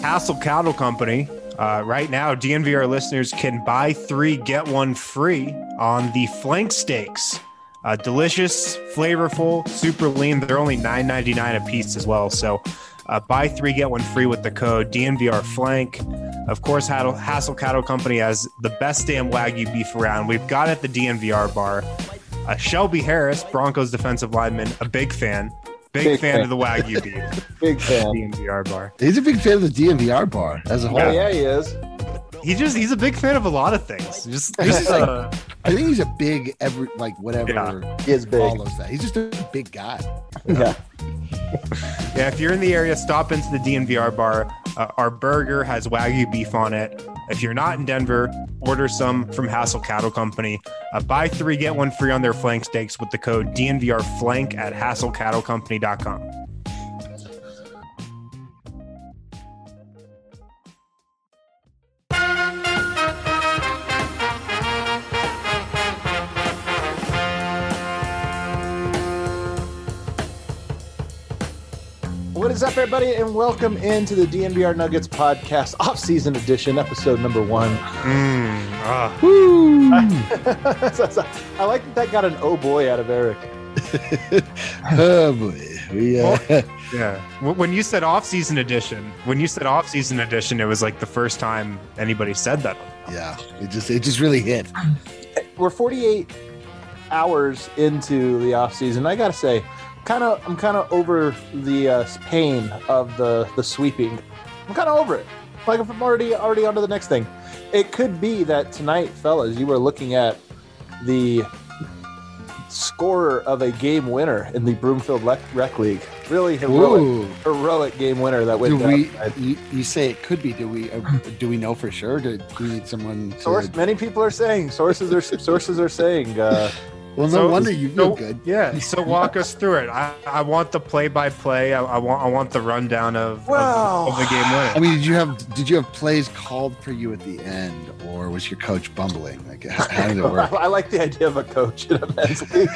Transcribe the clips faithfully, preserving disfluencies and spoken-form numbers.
Hassel Cattle Company. Uh, right now, D N V R listeners can buy three, get one free on the flank steaks. Uh, delicious, flavorful, super lean. They're only nine ninety-nine a piece as well. So uh, buy three, get one free with the code D N V R Flank. Of course, Hassel Cattle Company has the best damn Wagyu beef around. We've got it at the D N V R bar. Uh, Shelby Harris, Broncos defensive lineman, a big fan. Big, big fan, fan of the Wagyu beef. Big fan. D N V R bar. He's a big fan of the D N V R bar as a whole. Yeah, yeah, he is. He just he's a big fan of a lot of things. Just, just like, uh, I think he's a big every like whatever yeah. he is big. follows that. He's just a big guy. Yeah. Yeah, if you're in the area, stop into the D N V R bar. Uh, our burger has Wagyu beef on it. If you're not in Denver, order some from Hassel Cattle Company. Uh, buy three, get one free on their flank steaks with the code D N V R Flank at hassel cattle company dot com. What is up, everybody, and welcome into the D N V R Nuggets podcast, off-season edition, episode number one. Mm, ah. Woo! I like that that got an oh boy out of Eric. Oh boy, we uh... well, yeah. When you said off-season edition, when you said off-season edition, it was like the first time anybody said that. Yeah, it just it just really hit. We're forty-eight hours into the off-season. I gotta say. Kind of, I'm kind of over the uh, pain of the the sweeping. I'm kind of over it. Like if I'm already already on to the next thing. It could be that tonight, fellas, you were looking at the scorer of a game winner in the Broomfield Rec, Rec League. Really heroic, Ooh. heroic game winner that went do down. We, you, you say it could be. Do we? Uh, do we know for sure? Do, do we need someone? To... Source. Many people are saying. Sources are sources are saying. Uh, Well, no so, wonder you feel so, good. Yeah. So walk us through it. I, I want the play-by-play. I, I want I want the rundown of, well, of, of the game winner. I mean, did you have did you have plays called for you at the end, or was your coach bumbling? Like, how, how did it work? I like the idea of a coach in a men's league.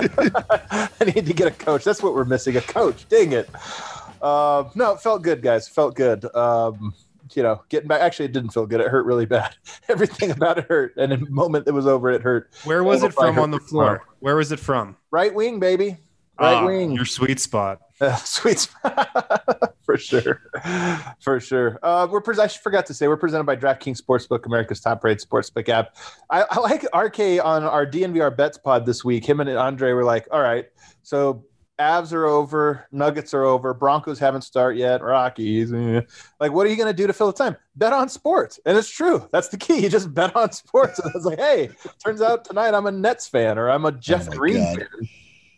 I need to get a coach. That's what we're missing, a coach. Dang it. Uh, no, it felt good, guys. It felt good. Um, you know, getting back. Actually, it didn't feel good. It hurt really bad. Everything about it hurt. And in the moment it was over, it hurt. Where was it from on the floor? Where was it from? Right wing, baby. Right ah, wing. Your sweet spot. Uh, sweet spot. For sure. For sure. Uh, we're pre- I forgot to say, we're presented by DraftKings Sportsbook, America's top-rated sportsbook app. I, I like R K on our D N V R Bets pod this week. Him and Andre were like, all right, so Avs are over, Nuggets are over, Broncos haven't started yet, Rockies. Eh. Like, what are you going to do to fill the time? Bet on sports. And it's true. That's the key. You just bet on sports. And it's like, hey, turns out tonight I'm a Nets fan or I'm a Jeff Oh Green God. fan.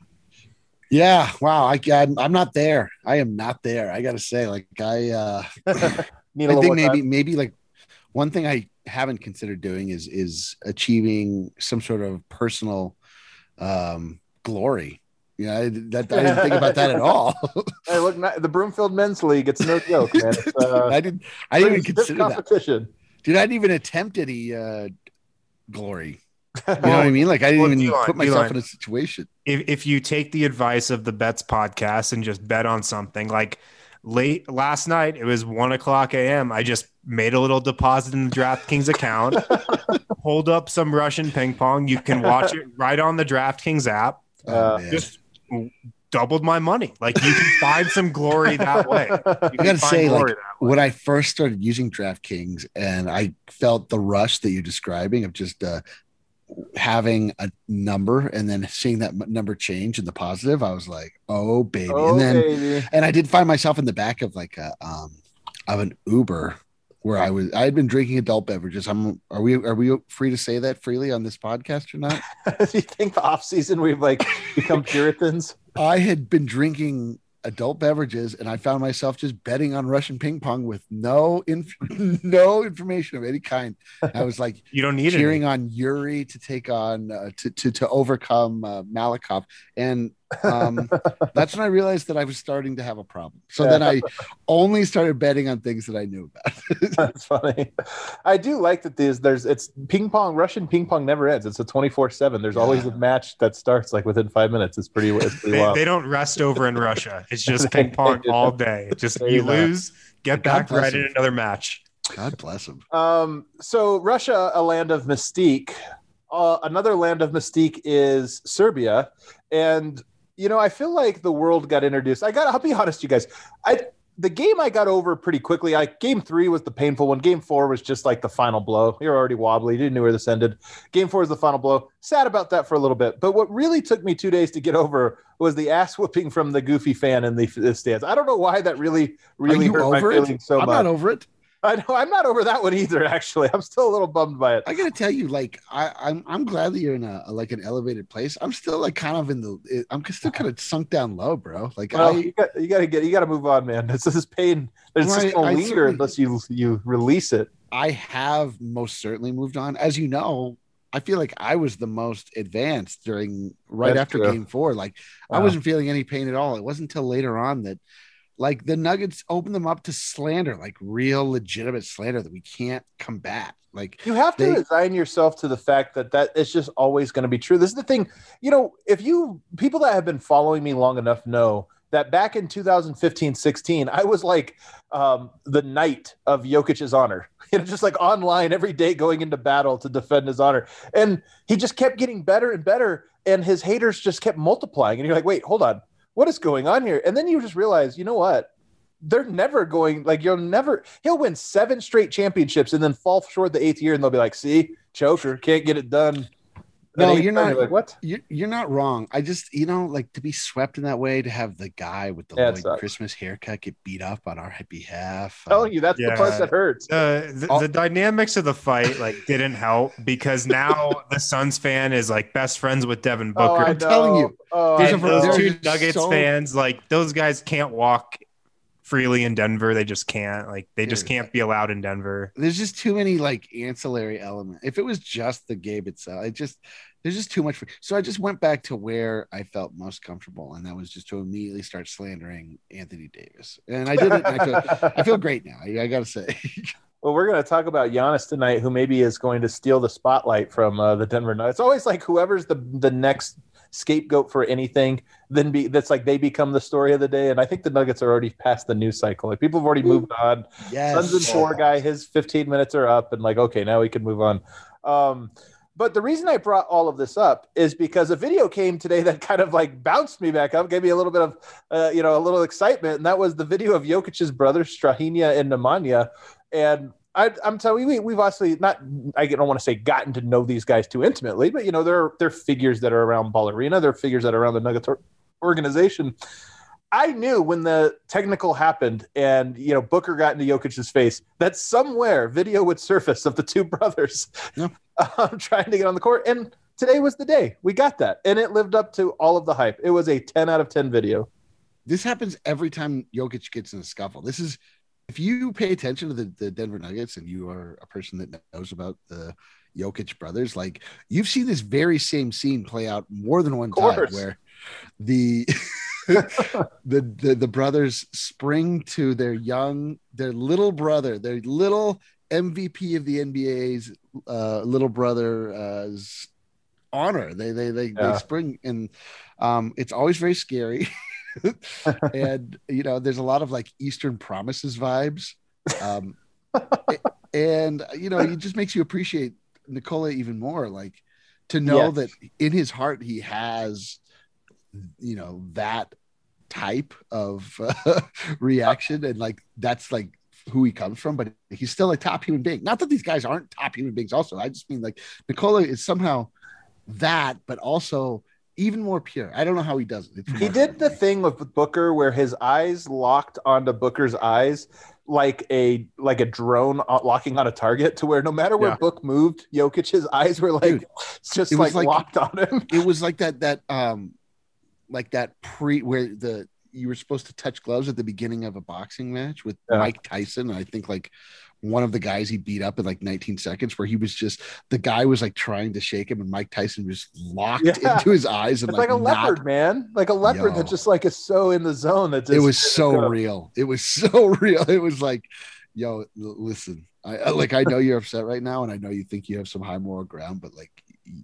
Yeah, wow. I I'm, I'm not there. I am not there. I got to say, like, I uh, Need a I little think more maybe time. maybe like one thing I haven't considered doing is is achieving some sort of personal um, glory. Yeah, I, that, I didn't think about that at all. Hey, look, the Broomfield Men's League, it's no joke, man. It's, uh, I didn't. I didn't even stiff consider that. competition. Dude, I didn't even attempt any uh, glory. You know what I mean? Like I didn't Well, even D-line, put myself D-line. in a situation. If if you take the advice of the Bets podcast and just bet on something, like late last night, it was one o'clock a.m. I just made a little deposit in the DraftKings account, hold up some Russian ping pong. You can watch it right on the DraftKings app. Oh, Uh, man. Just doubled my money. Like you can find some glory that way. You I can gotta find say, like glory that way. when I first started using DraftKings, and I felt the rush that you're describing of just uh, having a number and then seeing that m- number change in the positive, I was like, "Oh baby!" Oh, and then, baby. and I did find myself in the back of like a um of an Uber where I was. I had been drinking adult beverages. I'm. Are we? Are we free to say that freely on this podcast or not? Do you think the off season we've like become Puritans? I had been drinking adult beverages and I found myself just betting on Russian ping pong with no inf- no information of any kind. I was like You don't need cheering it. on Yuri to take on uh, to, to to overcome uh, Malakoff, and um, that's when I realized that I was starting to have a problem. So Yeah. then I only started betting on things that I knew about. That's funny. I do like that there's there's it's ping pong. Russian ping pong never ends. It's a twenty-four seven. There's always a match that starts like within five minutes. It's pretty. It's pretty They, wild. they don't rest over in Russia. It's just ping pong all day. Just They you do not. lose, get God back right bless in him. another match. God bless him. Um, so Russia, a land of mystique. Uh, another land of mystique is Serbia, and you know, I feel like the world got introduced. I got. I'll be honest, you guys. I the game I got over pretty quickly. I game three was the painful one. Game four was just like the final blow. You're already wobbly. You didn't know where this ended. Game four is the final blow. Sad about that for a little bit. But what really took me two days to get over was the ass whooping from the goofy fan in the, the stands. I don't know why that really, really Are you hurt my over feelings it? so I'm much. not over it. I know I'm not over that one either. Actually, I'm still a little bummed by it. I gotta tell you, like I, I'm I'm glad that you're in a, like an elevated place. I'm still like kind of in the I'm still kind of sunk down low, bro. Like Well, I you got you got to get you got to move on, man. This is pain. It's Well, just I- gonna I linger certainly- unless you you release it. I have most certainly moved on. As you know, I feel like I was the most advanced during right That's after true. game four. Like I Wow. wasn't feeling any pain at all. It wasn't until later on that like the Nuggets opened them up to slander, like real legitimate slander that we can't combat. Like You have to They- resign yourself to the fact that that it's just always going to be true. This is the thing, you know, if you people that have been following me long enough know that back in two thousand fifteen sixteen, I was like um, the knight of Jokic's honor, you know, just like online every day going into battle to defend his honor. And he just kept getting better and better. And his haters just kept multiplying. And you're like, wait, hold on. What is going on here? And then you just realize, you know what? They're never going, like, you'll never, he'll win seven straight championships and then fall short the eighth year. And they'll be like, see, choker, can't get it done. No, At eighth you're time, not- like, what? you're, you're not wrong. I just, you know, like to be swept in that way, to have the guy with the Yeah, it Lloyd sucks. Christmas haircut get beat up on our behalf. I'm telling you, that's the Yeah. part that hurts. The, the, Oh. the dynamics of the fight like didn't help because now the Suns fan is like best friends with Devin Oh, Booker. I I'm telling know. you. Oh, There's I a- and those know. there's two Nuggets so- fans, like those guys can't walk freely in Denver. They just can't. Like they just Dude. can't be allowed in Denver. There's just too many like ancillary elements. If it was just the game itself, it just there's just too much. For, so I just went back to where I felt most comfortable, and that was just to immediately start slandering Anthony Davis. And I did it. And I feel I feel great now. I, I gotta say. Well, we're going to talk about Giannis tonight, who maybe is going to steal the spotlight from uh, the Denver Nuggets. It's always like whoever's the the next scapegoat for anything, then be that's like they become the story of the day. And I think the Nuggets are already past the news cycle. Like people have already moved on. Yes. Suns and four guy, his fifteen minutes are up, and like, okay, now we can move on. Um, but the reason I brought all of this up is because a video came today that kind of like bounced me back up, gave me a little bit of, uh, you know, a little excitement, and that was the video of Jokic's brothers, Strahinja and Nemanja. And I, I'm telling you, we, we've obviously not, I don't want to say gotten to know these guys too intimately, but, you know, they're, they're figures that are around Ball Arena. They're figures that are around the Nuggets or- organization. I knew when the technical happened and, you know, Booker got into Jokic's face that somewhere video would surface of the two brothers Yeah. um, trying to get on the court. And today was the day we got that. And it lived up to all of the hype. It was a ten out of ten video. This happens every time Jokic gets in a scuffle. This is, if you pay attention to the, the Denver Nuggets and you are a person that knows about the Jokic brothers, like you've seen this very same scene play out more than one time course. where the, the, the, the brothers spring to their young, their little brother, their little M V P of the N B A's uh, little brother's honor. They, they, they, Yeah. they spring and um, it's always very scary. And you know there's a lot of like Eastern Promises vibes um and you know it just makes you appreciate Nikola even more, like to know Yes. that in his heart he has you know that type of uh, reaction, and like that's like who he comes from, but he's still a top human being. Not that these guys aren't top human beings also, I just mean like Nikola is somehow that, but also even more pure. I don't know how he does it. It's He did the thing with Booker where his eyes locked onto Booker's eyes like a like a drone locking on a target, to where no matter where Yeah. Book moved, Jokic's eyes were like Dude, just it was like, like- locked on him. It was like that that um like that pre where the you were supposed to touch gloves at the beginning of a boxing match with Yeah. Mike Tyson. And I think like one of the guys he beat up in like nineteen seconds, where he was just the guy was like trying to shake him and Mike Tyson was locked Yeah. into his eyes and It's like, a not- leopard, man. Like a leopard Yo. that just like is so in the zone that It just, was so uh, real. It was so real. It was like, yo, l- listen, I I- like I know you're upset right now, and I know you think you have some high moral ground, but like y-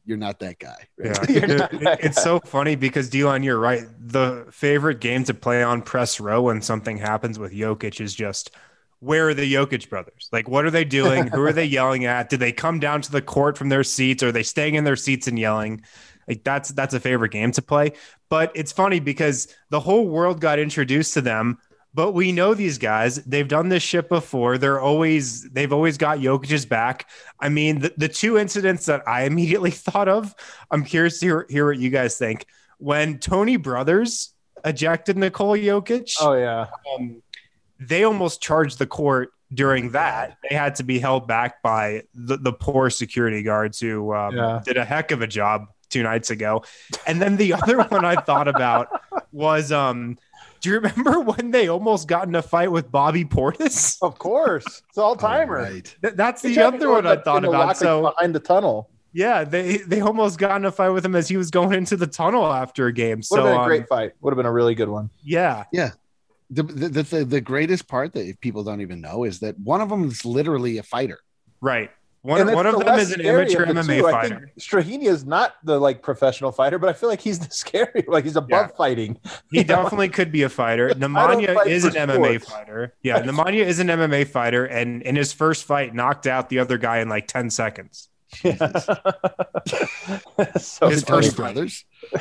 you're not that guy. Right? Yeah, it, it, it's so funny because Delon, you're right. The favorite game to play on press row when something happens with Jokic is just, where are the Jokic brothers? Like, what are they doing? Who are they yelling at? Did they come down to the court from their seats? Or are they staying in their seats and yelling? Like, that's that's a favorite game to play. But it's funny because the whole world got introduced to them. But we know these guys, they've done this shit before. They're always, they've always got Jokic's back. I mean, the, the two incidents that I immediately thought of, I'm curious to hear, hear what you guys think. When Tony Brothers ejected Nikola Jokic, Oh yeah. um, they almost charged the court during that. They had to be held back by the, the poor security guards who um, Yeah. did a heck of a job two nights ago. And then the other one I thought about was, um, do you remember when they almost got in a fight with Bobby Portis? Of course, it's all timer. Oh, right. Th- That's the other one I thought about. So behind the tunnel, yeah, they they almost got in a fight with him as he was going into the tunnel after a game. would So have been a um, great fight. Would have been a really good one. yeah, Yeah. The, the, the, the greatest part that people don't even know is that one of them is literally a fighter. right. One, And one it's of the them less is an scary amateur of the M M A two. I fighter. think Strahinja is not the like professional fighter, but I feel like he's the scary. Like he's above Yeah. fighting. He You know? definitely could be a fighter. Nemanja fight is for an M M A sports. fighter. Yeah, Nemanja is an M M A fighter, and in his first fight, knocked out the other guy in like ten seconds. so His Tony first fight. Brothers.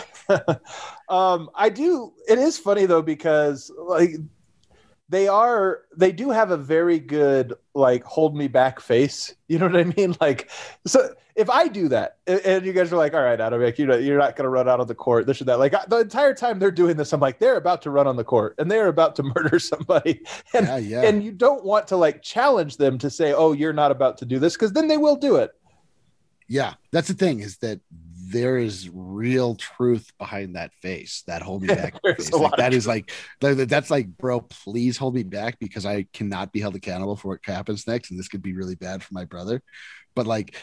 um, I do. It is funny though because like they are, they do have a very good like hold me back face. You know what I mean? Like, so if I do that and- and you guys are like, all right, Adam, like, you know, you're not going to run out on the court, this or that. Like I- the entire time they're doing this, I'm like, they're about to run on the court and they're about to murder somebody. And Yeah, yeah. and you don't want to like challenge them to say, oh, you're not about to do this, because then they will do it. Yeah, that's the thing, is that there is real truth behind that face, that hold me back There's face. a Like, lot of that is like that- that's like, bro, please hold me back because I cannot be held accountable for what happens next, and this could be really bad for my brother. But like,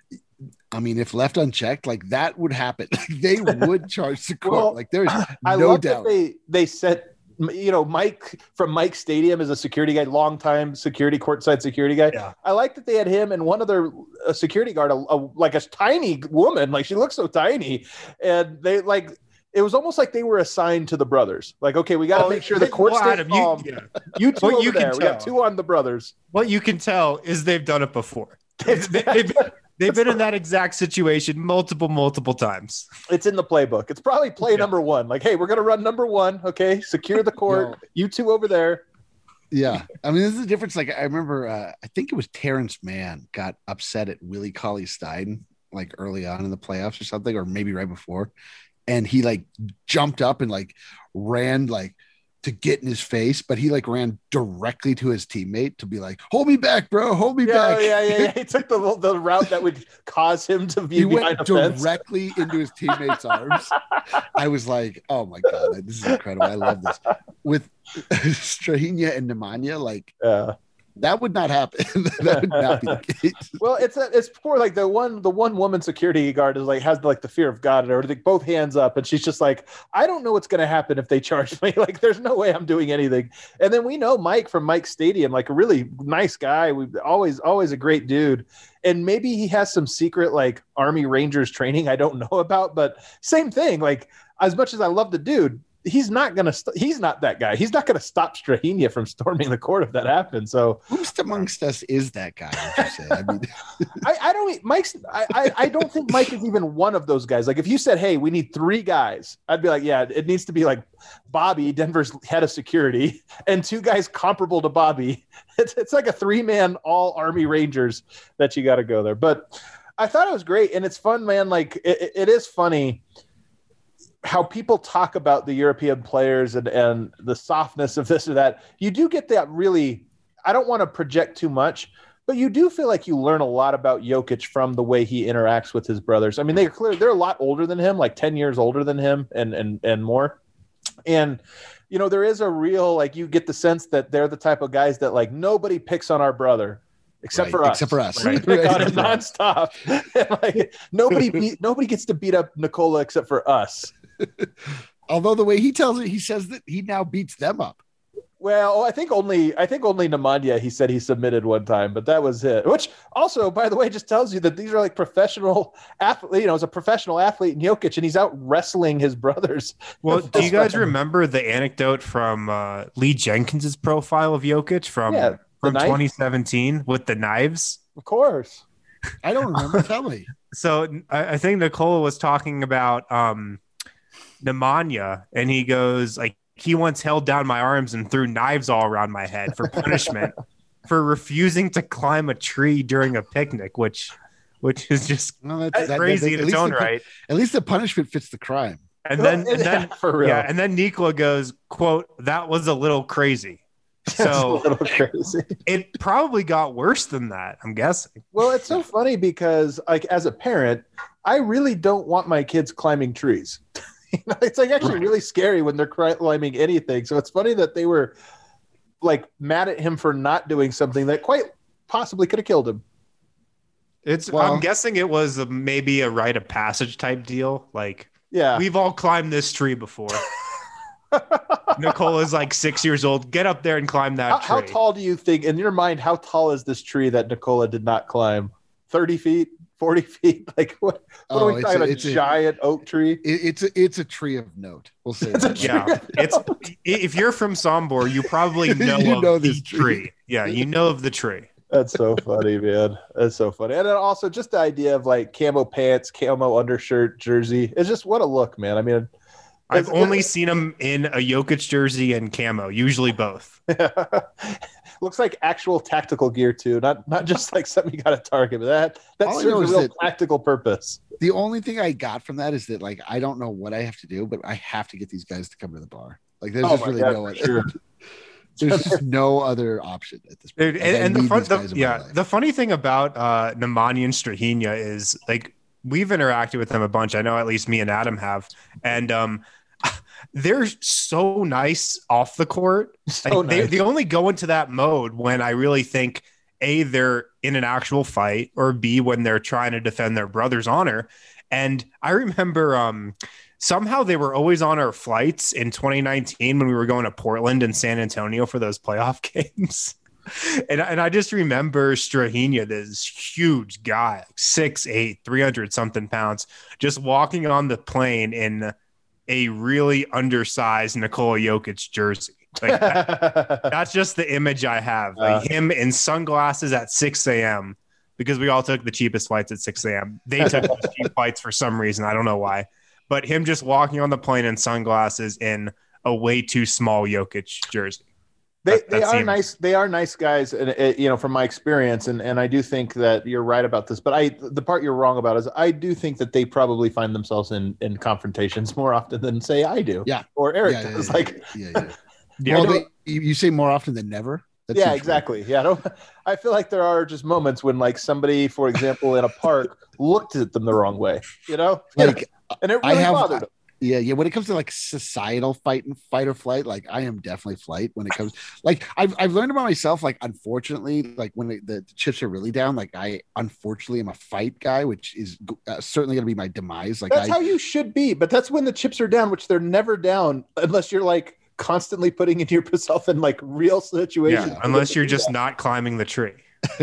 I mean, if left unchecked, like that would happen. They would charge the court. Well, like there's I no love doubt. that they they sent, you know, Mike from Mike Stadium is a security guy, longtime security, courtside security guy. Yeah. I like that they had him and one other a security guard, a, a, like a tiny woman, like she looks so tiny, and they like it was almost like they were assigned to the brothers. Like, okay, we got to Oh, make sure the well, court stays Adam, you- calm. yeah. You, two What over you can there. We got tell. two on the brothers. What you can tell is they've done it before. They've, they've, they've been in that exact situation multiple, multiple times. It's in the playbook. It's probably play Yeah. number one. Like, hey, we're gonna run number one. Okay, secure the court. Yo. You two over there. Yeah. I mean, this is the difference. Like, I remember, uh, I think it was Terrence Mann got upset at Willie Cauley Stein, like early on in the playoffs or something, or maybe right before. And he like jumped up and like ran like to get in his face, but he like ran directly to his teammate to be like, hold me back, bro. Hold me Yeah, back. yeah, yeah, yeah. He took the the route that would cause him to be He behind went a fence. directly into his teammate's arms. I was like, oh my God, this is incredible. I love this. With Strahinja and Nemanja, like Yeah. that would not happen. That would not be the case. Well, it's a, it's poor. Like the one the one woman security guard is like has like the fear of God and everything, both hands up, and she's just like, I don't know what's going to happen if they charge me. Like, there's no way I'm doing anything. And then we know Mike from Mike Stadium, like a really nice guy. We always always a great dude. And maybe he has some secret like Army Rangers training I don't know about, but same thing. Like, as much as I love the dude, he's not gonna st- he's not that guy. He's not gonna stop Strahinja from storming the court if that happens. So Who's amongst us is that guy? Would you say? I mean, I, I don't e, Mike's I, I I don't think Mike is even one of those guys. Like, if you said, hey, we need three guys, I'd be like, yeah, it needs to be like Bobby, Denver's head of security, and two guys comparable to Bobby. It's it's like a three-man all Army Rangers that you got to go there. But I thought it was great, and it's fun, man. Like, it, it is funny how people talk about the European players and, and the softness of this or that. You do get that really, I don't want to project too much, but you do feel like you learn a lot about Jokic from the way he interacts with his brothers. I mean, they're clear, they're a lot older than him, like ten years older than him and, and, and more. And, you know, there is a real, like, you get the sense that they're the type of guys that like nobody picks on our brother. Except right, for us. Except for us. We Right. pick on Right. him nonstop. And, like, nobody beat, nobody gets to beat up Nikola except for us. Although the way he tells it, he says that he now beats them up. Well, I think only I think only Nemanja he said he submitted one time, but that was it. Which also, by the way, just tells you that these are like professional athlete. You know, as a professional athlete in Jokic, and he's out wrestling his brothers. Well, do you guys remember the anecdote from uh, Lee Jenkins's profile of Jokic from Yeah, from knife? twenty seventeen with the knives? Of course. I don't remember. Tell me. So I, I think Nicola was talking about um, Nemanja, and he goes like, he once held down my arms and threw knives all around my head for punishment for refusing to climb a tree during a picnic, which which is just Well, that's, that, crazy that, in its own the, right. At least the punishment fits the crime. And then, and then Yeah, for real. yeah, and then Nikola goes, quote, "That was a little crazy." That's So a little crazy. it probably got worse than that, I'm guessing. Well, it's so funny because, like, as a parent, I really don't want my kids climbing trees. You know, it's like actually really scary when they're climbing anything. So it's funny that they were like mad at him for not doing something that quite possibly could have killed him. It's Well- I'm guessing it was a, maybe a rite of passage type deal. Like Yeah. we've all climbed this tree before. Nicola's like six years old. Get up there and climb that How, tree. how tall do you think, in your mind, how tall is this tree that Nicola did not climb? thirty feet? forty feet? Like what, what Oh, are we it's talking a- about? A it's a- giant oak tree? It, it's a it's a tree of note. We'll say It's a that. tree. Yeah, it's if you're from Sombor, you probably know You of know the this tree. tree. Yeah, you know of the tree. That's so funny, man. That's so funny. And then also just the idea of like camo pants, camo undershirt, jersey. It's just what a look, man. I mean, I've it's- only seen him in a Jokic jersey and camo, usually both. looks like actual tactical gear too, not not just like something you got to target. But that that All I serves know a is real that- practical purpose. The only thing I got from that is that like I don't know what I have to do, but I have to get these guys to come to the bar. Like there's Oh just my really God, no for other. sure. There's just no other option at this point. Dude, Like, I and, and the need fun, these the, guys in my yeah, life. the funny thing about uh, Nemanja and Strahinja is like we've interacted with them a bunch. I know at least me and Adam have, and um, they're so nice off the court. So Like, they, nice. they only go into that mode when I really think A, they're in an actual fight, or B, when they're trying to defend their brother's honor. And I remember um, somehow they were always on our flights in twenty nineteen when we were going to Portland and San Antonio for those playoff games. And, and I just remember Strahinja, this huge guy, six eight, three hundred something pounds, just walking on the plane in a really undersized Nikola Jokic jersey. Like that, that's just the image I have. Like Uh. him in sunglasses at six a.m. because we all took the cheapest flights at six a.m. They took the cheap flights for some reason. I don't know why. But him just walking on the plane in sunglasses in a way too small Jokic jersey. They That- they that are seems- nice. They are nice guys, and uh, you know, from my experience, and and I do think that you're right about this. But I, the part you're wrong about is I do think that they probably find themselves in in confrontations more often than say I do. Yeah. or Eric yeah, yeah, does. yeah, Like, yeah, yeah. Yeah, Well, I they, you, you say more often than never. That yeah, seems exactly. Yeah, I don't. I feel like there are just moments when, like, somebody, for example, in a park, looked at them the wrong way. You know, weird. Like and it I really have- bothered them. yeah, yeah. When it comes to like societal fight and fight or flight, like I am definitely flight. When it comes, like I've I've learned about myself. Like unfortunately, like when it, the, the chips are really down, like I unfortunately am a fight guy, which is uh, certainly going to be my demise. Like That's I, how you should be, but that's when the chips are down, which they're never down unless you're like constantly putting into yourself in like real situations. yeah, unless you're just not climbing the tree.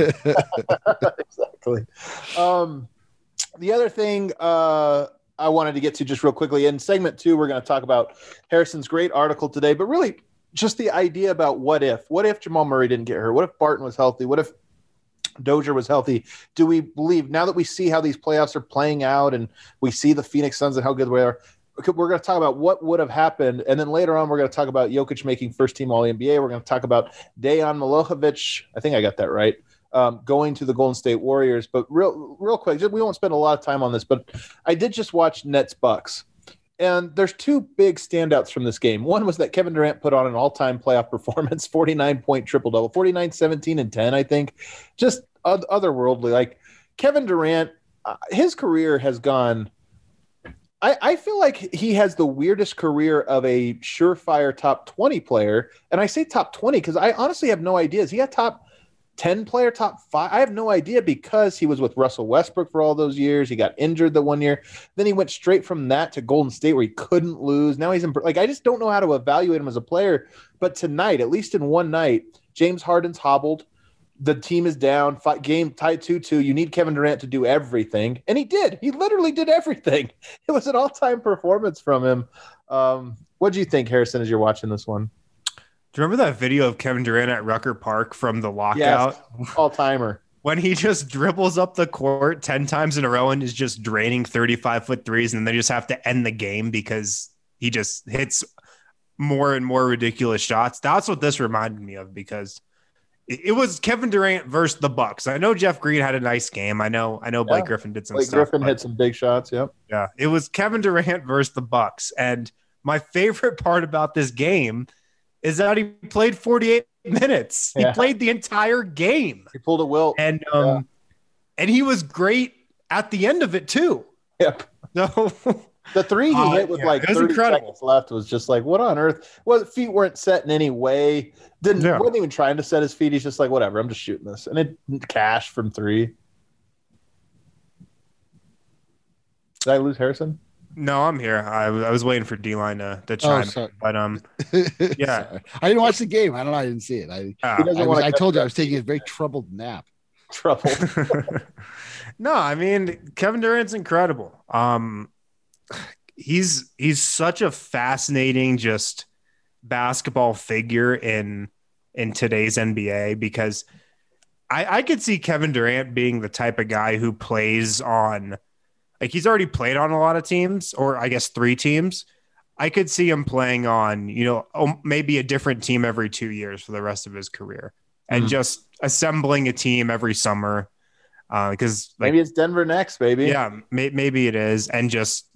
Exactly. Um, the other thing uh, I wanted to get to just real quickly in segment two, we're going to talk about Harrison's great article today, but really just the idea about what if, what if Jamal Murray didn't get hurt? What if Barton was healthy? What if Dozier was healthy? Do we believe, now that we see how these playoffs are playing out and we see the Phoenix Suns and how good they are, we're going to talk about what would have happened. And then later on, we're going to talk about Jokic making first team All N B A. We're going to talk about Dejan Milojevic. I think I got that right. Um, going to the Golden State Warriors. But real, real quick, just, we won't spend a lot of time on this, but I did just watch Nets Bucks. And there's two big standouts from this game. One was that Kevin Durant put on an all-time playoff performance, forty-nine point triple-double, forty-nine, seventeen, and ten, I think. Just otherworldly. Like Kevin Durant, uh, his career has gone – I, I feel like he has the weirdest career of a surefire top twenty player. And I say top twenty because I honestly have no idea. Is he a top ten player, top five. I have no idea because he was with Russell Westbrook for all those years. He got injured the one year. Then he went straight from that to Golden State where he couldn't lose. Now he's in, like, I just don't know how to evaluate him as a player. But tonight, at least in one night, James Harden's hobbled. The team is down, fight, game tied two two. You need Kevin Durant to do everything. And he did. He literally did everything. It was an all-time performance from him. Um, what do you think, Harrison, as you're watching this one? Do you remember that video of Kevin Durant at Rucker Park from the lockout? Yes, all-timer. When he just dribbles up the court ten times in a row and is just draining thirty-five foot threes, and they just have to end the game because he just hits more and more ridiculous shots. That's what this reminded me of, because it, it was Kevin Durant versus the Bucks. I know Jeff Green had a nice game. I know, I know Blake yeah. Griffin did some Blake stuff. Griffin hit some big shots. Yep. Yeah. It was Kevin Durant versus the Bucks. And my favorite part about this game is that he played forty-eight minutes. He yeah. played the entire game. He pulled a Wilt. And um yeah. and he was great at the end of it too. Yep. So the three he uh, hit with yeah, like thirty incredible. seconds left was just like, what on earth? Well, feet weren't set in any way. Didn't yeah. wasn't even trying to set his feet. He's just like, whatever, I'm just shooting this. And it cash from three. Did I lose Harrison? No, I'm here. I, I was waiting for D-Line to, to chime oh, in. But, um, yeah. I didn't watch the game. I don't know. I didn't see it. I, uh, I, was, I told you I was taking a very troubled nap. Troubled. No, I mean, Kevin Durant's incredible. Um, he's he's such a fascinating just basketball figure in in today's N B A, because I, I could see Kevin Durant being the type of guy who plays on – like, he's already played on a lot of teams, or I guess three teams. I could see him playing on, you know, maybe a different team every two years for the rest of his career, and mm-hmm. just assembling a team every summer. Because uh, like, maybe it's Denver next, baby. Yeah, may, maybe it is, and just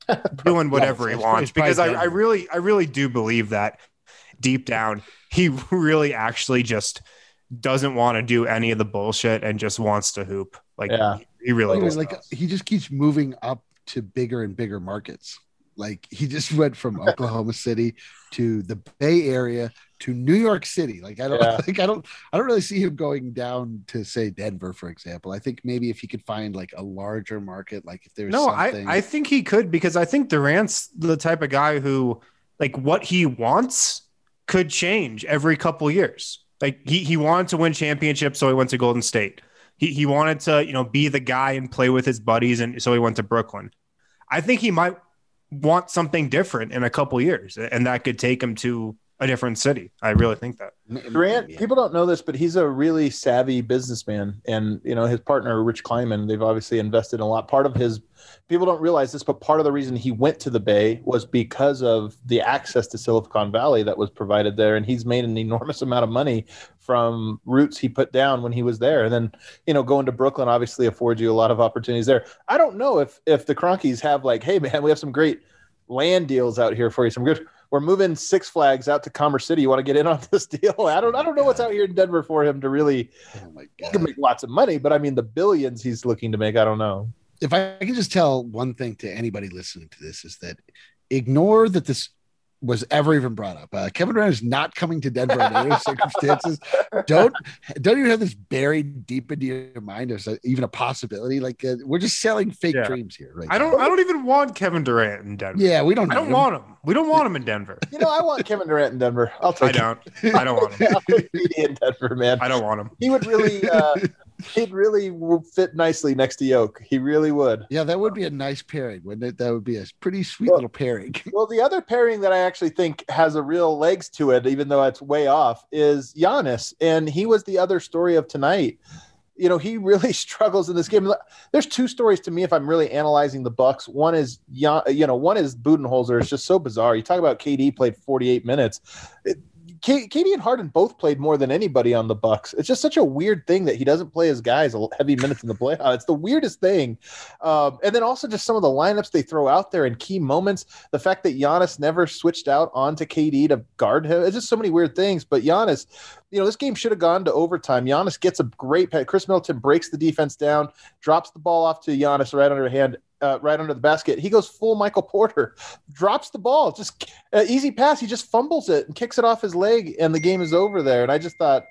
doing whatever yeah, he wants. Because I, I really, I really do believe that deep down, he really actually just doesn't want to do any of the bullshit and just wants to hoop. Like, yeah. he, he really does. Like, he just keeps moving up to bigger and bigger markets. Like, he just went from Oklahoma City to the Bay Area to New York City. Like, I don't yeah. like, I don't, I don't really see him going down to, say, Denver, for example. I think maybe if he could find like a larger market, like if there's no, something... I, I think he could, because I think Durant's the type of guy who, like, what he wants could change every couple years. Like, he, he wanted to win championships, so he went to Golden State. He he wanted to, you know, be the guy and play with his buddies, and so he went to Brooklyn. I think he might want something different in a couple years, and that could take him to a different city. I really think that. Durant, people don't know this, but he's a really savvy businessman, and you know, his partner Rich Kleiman, they've obviously invested in a lot. Part of his, people don't realize this, but part of the reason he went to the Bay was because of the access to Silicon Valley that was provided there, and he's made an enormous amount of money from roots he put down when he was there. And then, you know, going to Brooklyn obviously affords you a lot of opportunities there. I don't know if if the Cronkies have like, hey man, we have some great land deals out here for you. Some good. We're moving Six Flags out to Commerce City. You want to get in on this deal? I don't. I don't know what's out here in Denver for him to really. Oh my God. He can make lots of money, but I mean the billions he's looking to make. I don't know. If I can just tell one thing to anybody listening to this, is that ignore that this was ever even brought up. Uh, Kevin Durant is not coming to Denver in any circumstances. Don't don't even have this buried deep into your mind as a, even a possibility. Like uh, we're just selling fake yeah. dreams here. Right? I don't. Now. I don't even want Kevin Durant in Denver. Yeah, we don't. I don't him. want him. We don't want him in Denver. You know, I want Kevin Durant in Denver. I'll take. I don't. I don't want him in Denver, man. I don't want him. He would really. Uh, he'd really fit nicely next to Yoke. He really would. Yeah, that would be a nice pairing, wouldn't it? That would be a pretty sweet well, little pairing. Well, the other pairing that I actually think has a real legs to it, even though it's way off, is Giannis. And he was the other story of tonight. You know, he really struggles in this game. There's two stories to me if I'm really analyzing the Bucks. One is, you know, one is Budenholzer. It's just so bizarre. You talk about K D played forty-eight minutes. It, K D and Harden both played more than anybody on the Bucks. It's just such a weird thing that he doesn't play his guys heavy minutes in the playoffs. It's the weirdest thing. Um, and then also just some of the lineups they throw out there in key moments. The fact that Giannis never switched out onto K D to guard him. It's just so many weird things. But Giannis, you know, this game should have gone to overtime. Giannis gets a great – Chris Middleton breaks the defense down, drops the ball off to Giannis right under hand. Uh, right under the basket. He goes full Michael Porter, drops the ball, just uh, easy pass. He just fumbles it and kicks it off his leg, and the game is over there. And I just thought,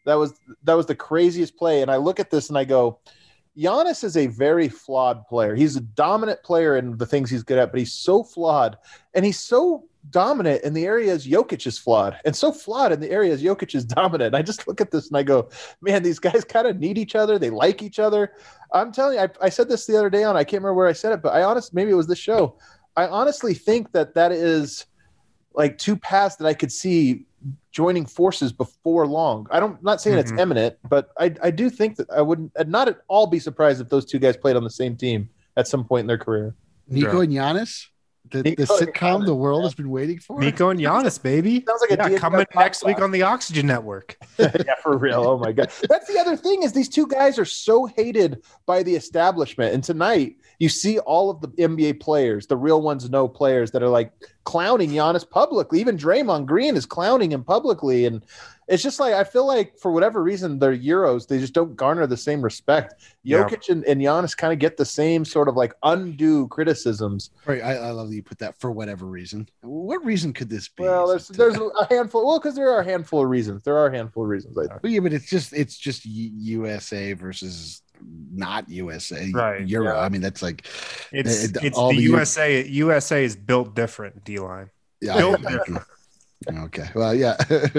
That was that was the craziest play. And I look at this and I go, Giannis is a very flawed player. He's a dominant player in the things he's good at, but he's so flawed. And he's so dominant in the areas Jokic is flawed, and so flawed in the areas Jokic is dominant. And I just look at this and I go, man, these guys kind of need each other. They like each other. I'm telling you, I, I said this the other day on, I can't remember where I said it, but I honestly, maybe it was this show. I honestly think that that is like two paths that I could see joining forces before long. I don't, I'm not saying mm-hmm. it's imminent, but I, I do think that I wouldn't, I'd not at all be surprised if those two guys played on the same team at some point in their career. Nico and Giannis? The, the sitcom the world has been waiting for. Nico and Giannis, baby. Sounds like a yeah, coming next week on the Oxygen Network. Yeah, for real. Oh my god, that's the other thing is these two guys are so hated by the establishment. And tonight you see all of the N B A players, the real ones, no players that are like clowning Giannis publicly. Even Draymond Green is clowning him publicly, and it's just like I feel like for whatever reason they're Euros, they just don't garner the same respect. Jokic yeah. and, and Giannis kind of get the same sort of like undue criticisms. Right, I, I love that you put that for whatever reason. What reason could this be? Well, there's there's a handful. Well, because there are a handful of reasons. There are a handful of reasons. I think. But yeah, but it's just it's just U S A versus not U S A. Right. Euro. Yeah. I mean, that's like it's the, it's the, the U S A. U S A is built different. D-line. Yeah. Built different. Okay. Well, yeah.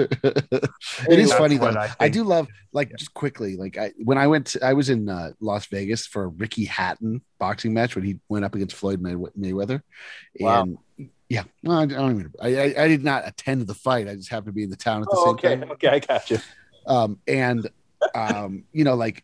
It is funny though. I, I do love like yeah. just quickly like I when I went to, I was in uh, Las Vegas for a Ricky Hatton boxing match when he went up against Floyd May- Mayweather. Wow. And yeah, well, I don't even I, I I did not attend the fight. I just happened to be in the town at the oh, same okay. time. Okay, I got you. Um and um you know like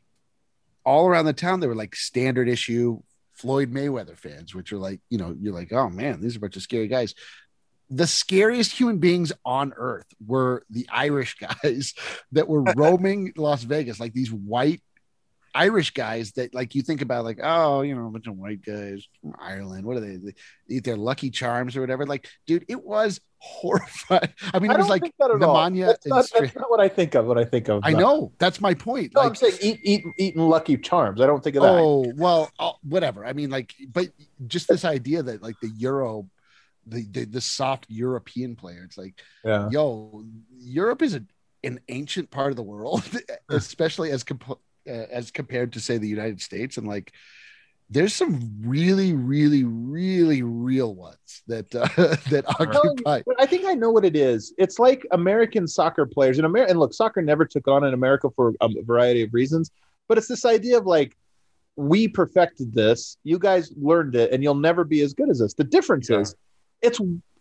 all around the town there were like standard issue Floyd Mayweather fans, which are like, you know, you're like, oh man, these are a bunch of scary guys. The scariest human beings on earth were the Irish guys that were roaming Las Vegas, like these white Irish guys that like you think about like, oh, you know, a bunch of white guys from Ireland. What are they? They eat their Lucky Charms or whatever. Like, dude, it was horrifying. I mean, I it was don't like think that at the all. Mania. That's not, that's not what I think of when I think of. I know. That's my point. No, like, I'm saying eat, eat, eating Lucky Charms. I don't think of that. Oh, well, oh, whatever. I mean, like, but just this idea that like the Euro, the, the, the soft European player, it's like, yeah. yo, Europe is a, an ancient part of the world, especially as comp- uh, as compared to say the United States. And like, there's some really, really, really real ones that uh, that occupy. I think I know what it is. It's like American soccer players in America. And look, soccer never took on in America for a variety of reasons, but it's this idea of like, we perfected this, you guys learned it, and you'll never be as good as us. The difference yeah. is it's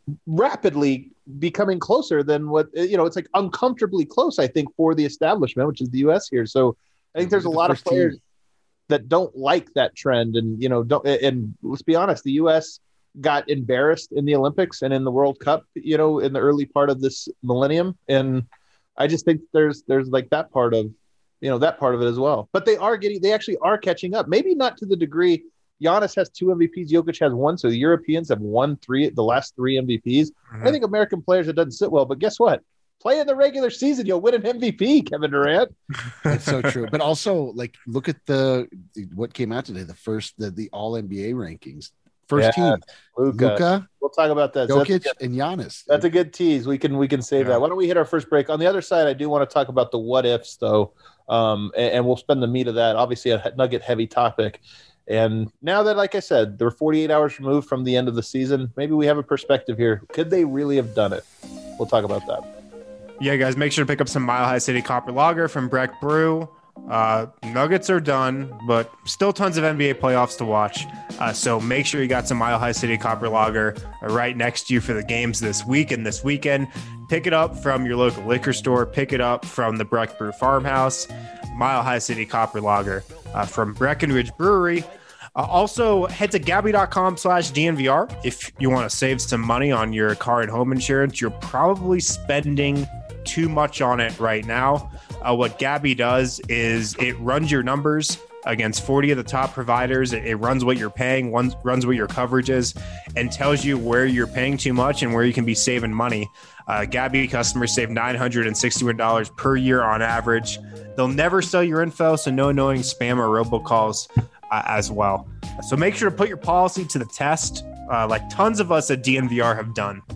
rapidly becoming closer than what, you know, it's like uncomfortably close, I think, for the establishment, which is the U S here. So I think there's a lot of players team. that don't like that trend. And, you know, don't, and let's be honest, the U S got embarrassed in the Olympics and in the World Cup, you know, in the early part of this millennium. And I just think there's, there's like that part of, you know, that part of it as well. But they are getting, they actually are catching up. Maybe not to the degree Giannis has two M V Ps, Jokic has one. So the Europeans have won three, the last three M V Ps. Mm-hmm. I think American players, it doesn't sit well, but guess what? Play in the regular season, you'll win an M V P, Kevin Durant. That's so true. But also, like, look at the what came out today, the first, the, the all N B A rankings. First yeah, team, Luka. Luka. We'll talk about that. Jokic so and Giannis. That's a good tease. We can we can save yeah. that. Why don't we hit our first break? On the other side, I do want to talk about the what ifs, though, um, and, and we'll spend the meat of that. Obviously, a nugget heavy topic. And now that, like I said, they're forty-eight hours removed from the end of the season, maybe we have a perspective here. Could they really have done it? We'll talk about that. Yeah, guys, make sure to pick up some Mile High City Copper Lager from Breck Brew. Uh, Nuggets are done, but still tons of N B A playoffs to watch. Uh, so make sure you got some Mile High City Copper Lager right next to you for the games this week and this weekend. Pick it up from your local liquor store. Pick it up from the Breck Brew Farmhouse. Mile High City Copper Lager uh, from Breckenridge Brewery. Uh, also, head to Gabby.com slash DNVR if you want to save some money on your car and home insurance. You're probably spending too much on it right now. Uh, what Gabby does is it runs your numbers against forty of the top providers. It, it runs what you're paying, runs, runs what your coverage is, and tells you where you're paying too much and where you can be saving money. Uh, Gabby customers save nine hundred sixty-one dollars per year on average. They'll never sell your info, so no annoying spam or robocalls uh, as well. So make sure to put your policy to the test, uh, like tons of us at D N V R have done.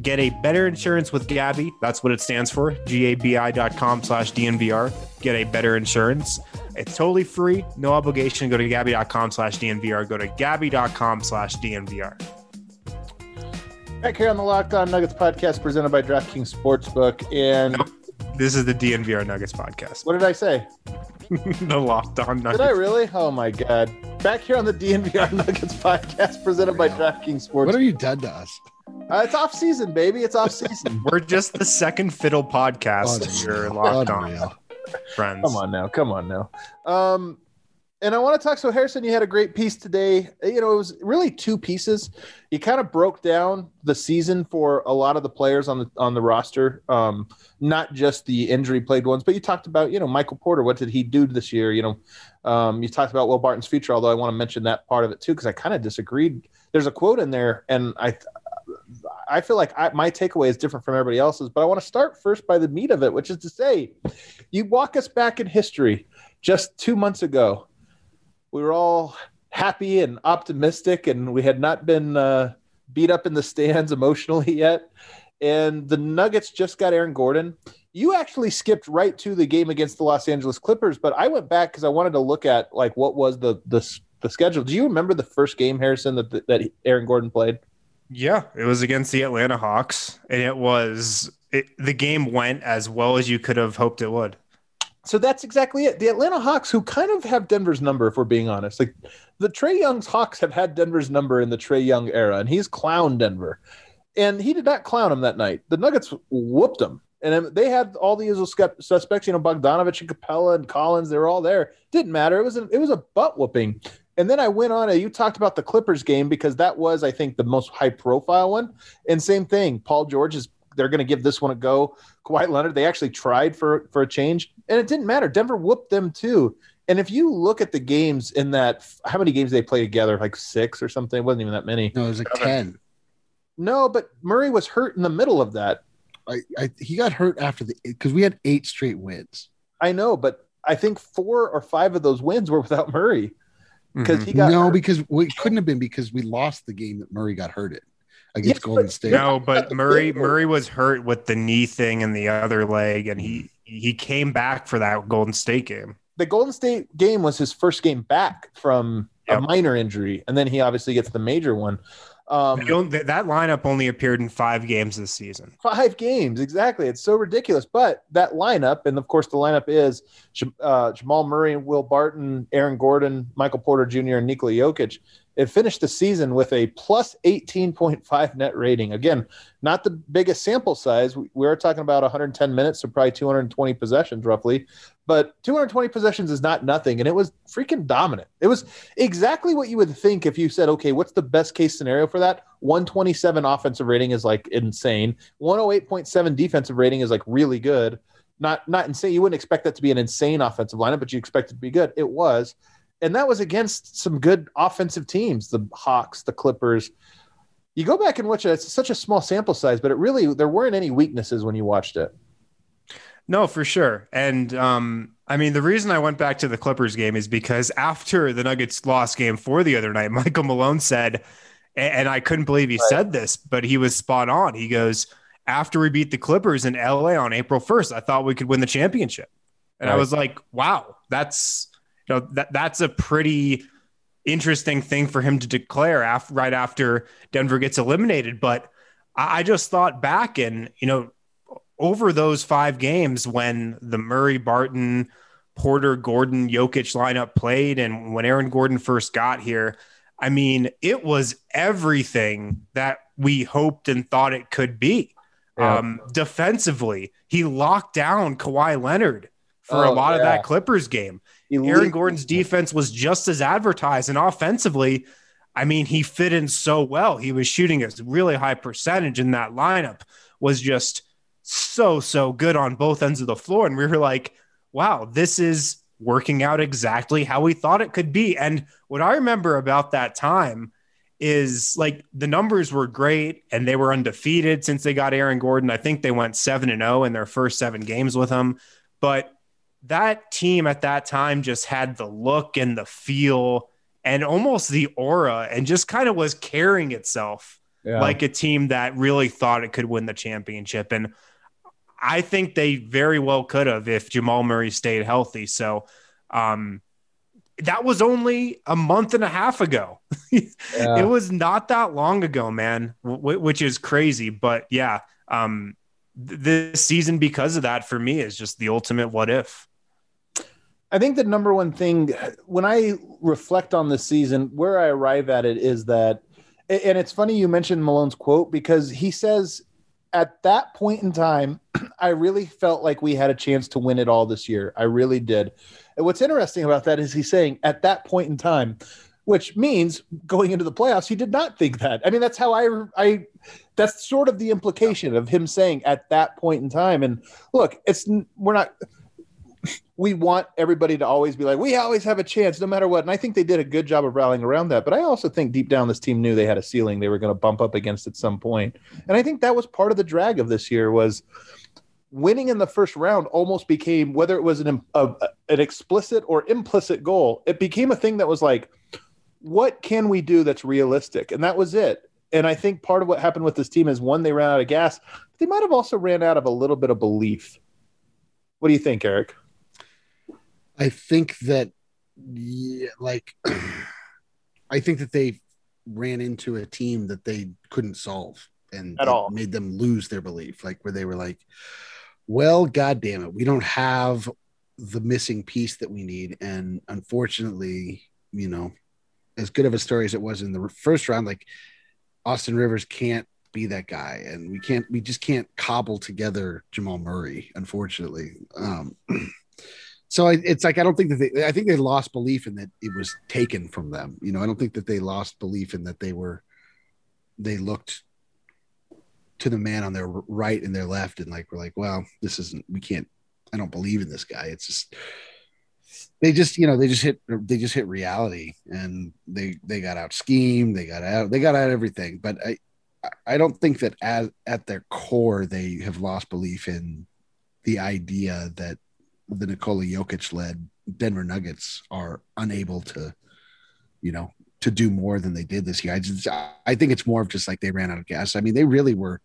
Get a better insurance with Gabi. That's what it stands for. G A B I dot com slash D N V R. Get a better insurance. It's totally free. No obligation. Go to Gabi dot com slash D N V R. Go to Gabi dot com slash D N V R. Back here on the Locked On Nuggets podcast presented by DraftKings Sportsbook. And nope. This is the D N V R Nuggets podcast. What did I say? The Locked On Nuggets. Did I really? Oh, my God. Back here on the D N V R Nuggets podcast presented by DraftKings Sportsbook. What have you done to us? Uh, it's off season, baby. It's off season. We're just the second fiddle podcast that you're locked on, friends. Come on now. Come on now. Um, and I want to talk. So, Harrison, you had a great piece today. You know, it was really two pieces. You kind of broke down the season for a lot of the players on the on the roster, um, not just the injury plagued ones, but you talked about, you know, Michael Porter. What did he do this year? You know, um, you talked about Will Barton's future, although I want to mention that part of it, too, because I kind of disagreed. There's a quote in there, and I I feel like I, my takeaway is different from everybody else's, but I want to start first by the meat of it, which is to say, you walk us back in history just two months ago. We were all happy and optimistic, and we had not been uh, beat up in the stands emotionally yet. And the Nuggets just got Aaron Gordon. You actually skipped right to the game against the Los Angeles Clippers, but I went back because I wanted to look at like what was the the, the schedule. Do you remember the first game, Harrison, that that Aaron Gordon played? Yeah, it was against the Atlanta Hawks, and it was it, the game went as well as you could have hoped it would. So that's exactly it. The Atlanta Hawks, who kind of have Denver's number, if we're being honest, like the Trae Young's Hawks have had Denver's number in the Trae Young era, and he's clowned Denver, and he did not clown him that night. The Nuggets whooped him, and they had all the usual suspects, you know, Bogdanovich and Capella and Collins. They were all there. Didn't matter. It was a, it was a butt whooping. And then I went on, you talked about the Clippers game because that was, I think, the most high-profile one. And same thing, Paul George is, they're going to give this one a go. Kawhi Leonard, they actually tried for, for a change, and it didn't matter. Denver whooped them too. And if you look at the games in that, how many games they played together, like six or something? It wasn't even that many. No, it was like ten. No, but Murray was hurt in the middle of that. I, I he got hurt after the because we had eight straight wins. I know, but I think four or five of those wins were without Murray. Because he got no, hurt. because we couldn't have been because we lost the game that Murray got hurt in against Yes, Golden but- State. No, but Murray Murray was hurt with the knee thing in the other leg, and he he came back for that Golden State game. The Golden State game was his first game back from Yep. a minor injury, and then he obviously gets the major one. Um, They don't- that that lineup only appeared in five games this season. Five games, exactly. It's so ridiculous. But that lineup, and of course the lineup is uh, Jamal Murray, Will Barton, Aaron Gordon, Michael Porter Junior, and Nikola Jokic. It finished the season with a plus eighteen point five net rating. Again, not the biggest sample size. We, we are talking about one hundred ten minutes, so probably two hundred twenty possessions roughly. But two hundred twenty possessions is not nothing, and it was freaking dominant. It was exactly what you would think if you said, okay, what's the best case scenario for that? one twenty-seven offensive rating is like insane. one oh eight point seven defensive rating is like really good. Not not insane. You wouldn't expect that to be an insane offensive lineup, but you expect it to be good. It was. And that was against some good offensive teams, the Hawks, the Clippers. You go back and watch it. It's such a small sample size, but it really, there weren't any weaknesses when you watched it. No, for sure. And um, I mean, the reason I went back to the Clippers game is because after the Nuggets lost game four the other night, Michael Malone said, and I couldn't believe he right. said this, but he was spot on. He goes, after we beat the Clippers in L A on April first, I thought we could win the championship. And right. I was like, wow, that's, you know, that that's a pretty interesting thing for him to declare after, right after Denver gets eliminated. But I, I just thought back and, you know, over those five games when the Murray, Barton, Porter, Gordon, Jokic lineup played, and when Aaron Gordon first got here, I mean, it was everything that we hoped and thought it could be. Yeah. Um, defensively, he locked down Kawhi Leonard for oh, a lot yeah. of that Clippers game. Elite. Aaron Gordon's defense was just as advertised, and offensively, I mean, he fit in so well. He was shooting a really high percentage, in that lineup was just so, so good on both ends of the floor. And we were like, wow, this is working out exactly how we thought it could be. And what I remember about that time is like the numbers were great and they were undefeated since they got Aaron Gordon. I think they went seven and oh in their first seven games with him. But that team at that time just had the look and the feel and almost the aura and just kind of was carrying itself Yeah. like a team that really thought it could win the championship. And I think they very well could have if Jamal Murray stayed healthy. So um, that was only a month and a half ago. Yeah. It was not that long ago, man, w- which is crazy. But yeah, um, th- this season, because of that, for me, is just the ultimate what if. I think the number one thing when I reflect on this season, where I arrive at it is that, and it's funny you mentioned Malone's quote, because he says at that point in time, I really felt like we had a chance to win it all this year. I really did. And what's interesting about that is he's saying at that point in time, which means going into the playoffs, he did not think that. I mean, that's how I, I, that's sort of the implication of him saying at that point in time. And look, it's, we're not, we want everybody to always be like, we always have a chance no matter what. And I think they did a good job of rallying around that. But I also think deep down, this team knew they had a ceiling they were going to bump up against at some point. And I think that was part of the drag of this year was winning in the first round almost became, whether it was an, a, an explicit or implicit goal, it became a thing that was like, what can we do that's realistic? And that was it. And I think part of what happened with this team is one, they ran out of gas. But they might have also ran out of a little bit of belief. What do you think, Eric? I think that, yeah, like, I think that they ran into a team that they couldn't solve, and At it all. made them lose their belief. Like, where they were like, well, God damn it, we don't have the missing piece that we need. And unfortunately, you know, as good of a story as it was in the first round, like Austin Rivers can't be that guy. And we can't, we just can't cobble together Jamal Murray, unfortunately. Um, So it's like, I don't think that they, I think they lost belief in that it was taken from them. You know, I don't think that they lost belief in that they were, they looked to the man on their right and their left and like, we're like, well, this isn't, we can't, I don't believe in this guy. It's just, they just, you know, they just hit, they just hit reality and they, they got out schemed. They got out, they got out everything. But I, I don't think that as, at their core, they have lost belief in the idea that the Nikola Jokic led Denver Nuggets are unable to, you know, to do more than they did this year. I just, I think it's more of just like they ran out of gas. I mean, they really were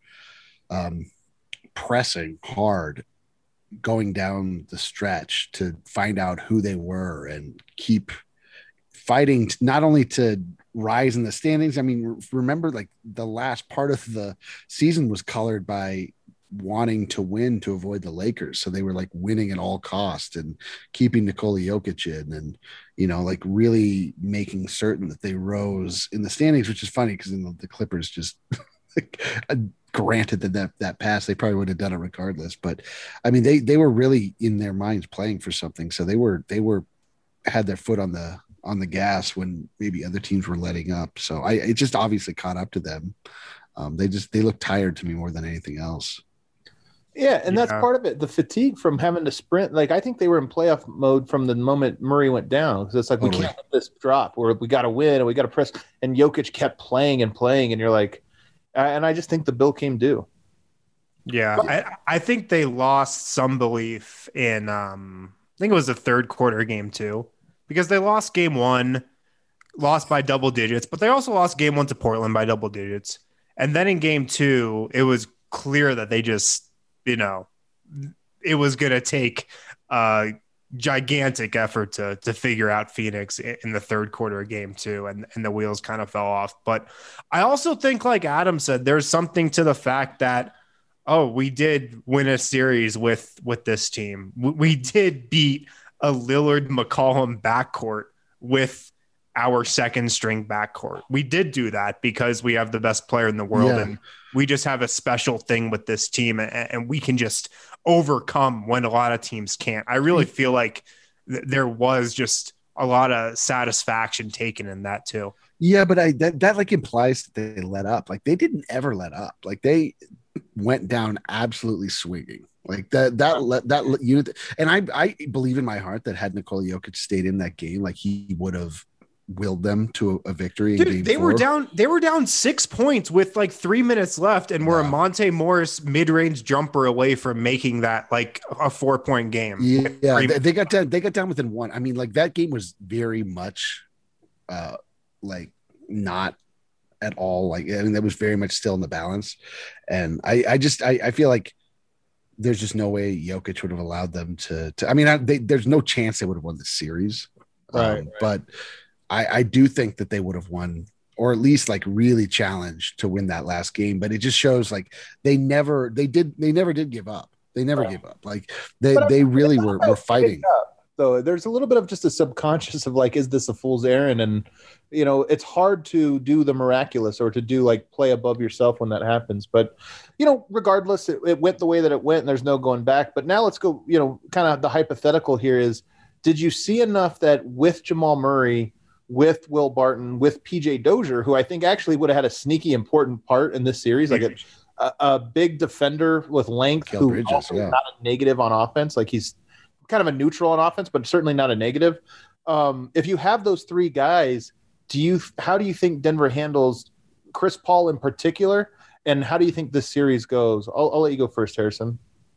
um, pressing hard going down the stretch to find out who they were and keep fighting, to, not only to rise in the standings. I mean, remember, like the last part of the season was colored by wanting to win to avoid the Lakers. So they were like winning at all costs and keeping Nikola Jokic in and, you know, like really making certain that they rose in the standings, which is funny because the, the Clippers just like, uh, granted that, that that pass, they probably would have done it regardless. But I mean, they, they were really in their minds playing for something. So they were, they were, had their foot on the, on the gas when maybe other teams were letting up. So I, it just obviously caught up to them. Um, they just, they look tired to me more than anything else. Yeah, and Yeah. that's part of it. The fatigue from having to sprint. Like, I think they were in playoff mode from the moment Murray went down. Because it's like, Totally. we can't let this drop. Or we got to win and we got to press. And Jokic kept playing and playing. And you're like, and I just think the bill came due. Yeah, I, I think they lost some belief in, um, I think it was the third quarter game too, because they lost game one, lost by double digits, but they also lost game one to Portland by double digits. And then in game two, it was clear that they just, you know, it was going to take a gigantic effort to to figure out Phoenix in the third quarter of game two, and, and the wheels kind of fell off. But I also think, like Adam said, there's something to the fact that, oh, we did win a series with, with this team. We, we did beat a Lillard McCollum backcourt with our second string backcourt. We did do that because we have the best player in the world. Yeah. And we just have a special thing with this team, and, and we can just overcome when a lot of teams can't. I really feel like th- there was just a lot of satisfaction taken in that too. Yeah, but I that, that like implies that they let up. Like they didn't ever let up. Like they went down absolutely swinging. Like that that that unit. And I I believe in my heart that had Nikola Jokic stayed in that game, like he would have willed them to a, a victory. Dude, in game they four. were down. They were down six points with like three minutes left, and were Yeah. a Monte Morris mid-range jumper away from making that like a four-point game. Yeah, yeah. Three- They, they got down. They got down within one. I mean, like that game was very much, uh, like not at all. Like, I mean, that was very much still in the balance. And I, I just, I, I feel like there's just no way Jokic would have allowed them to, to I mean, I, they, there's no chance they would have won the series. Right, Um, right. But I, I do think that they would have won, or at least like really challenged to win that last game. But it just shows like they never, they did, they never did give up. They never Right. gave up. Like they, But I they mean, really it's not were, about were fighting. So there's a little bit of just a subconscious of like, is this a fool's errand? And, you know, it's hard to do the miraculous or to do like play above yourself when that happens. But, you know, regardless, it, it went the way that it went and there's no going back. But now let's go, you know, kind of the hypothetical here is, did you see enough that with Jamal Murray, with Will Barton, with P J Dozier, who I think actually would have had a sneaky important part in this series, like a, a, a big defender with length, Kel who Bridges, also yeah. not a negative on offense, like he's kind of a neutral on offense, but certainly not a negative. Um, if you have those three guys, do you how do you think Denver handles Chris Paul in particular, and how do you think this series goes? I'll, I'll let you go first, Harrison.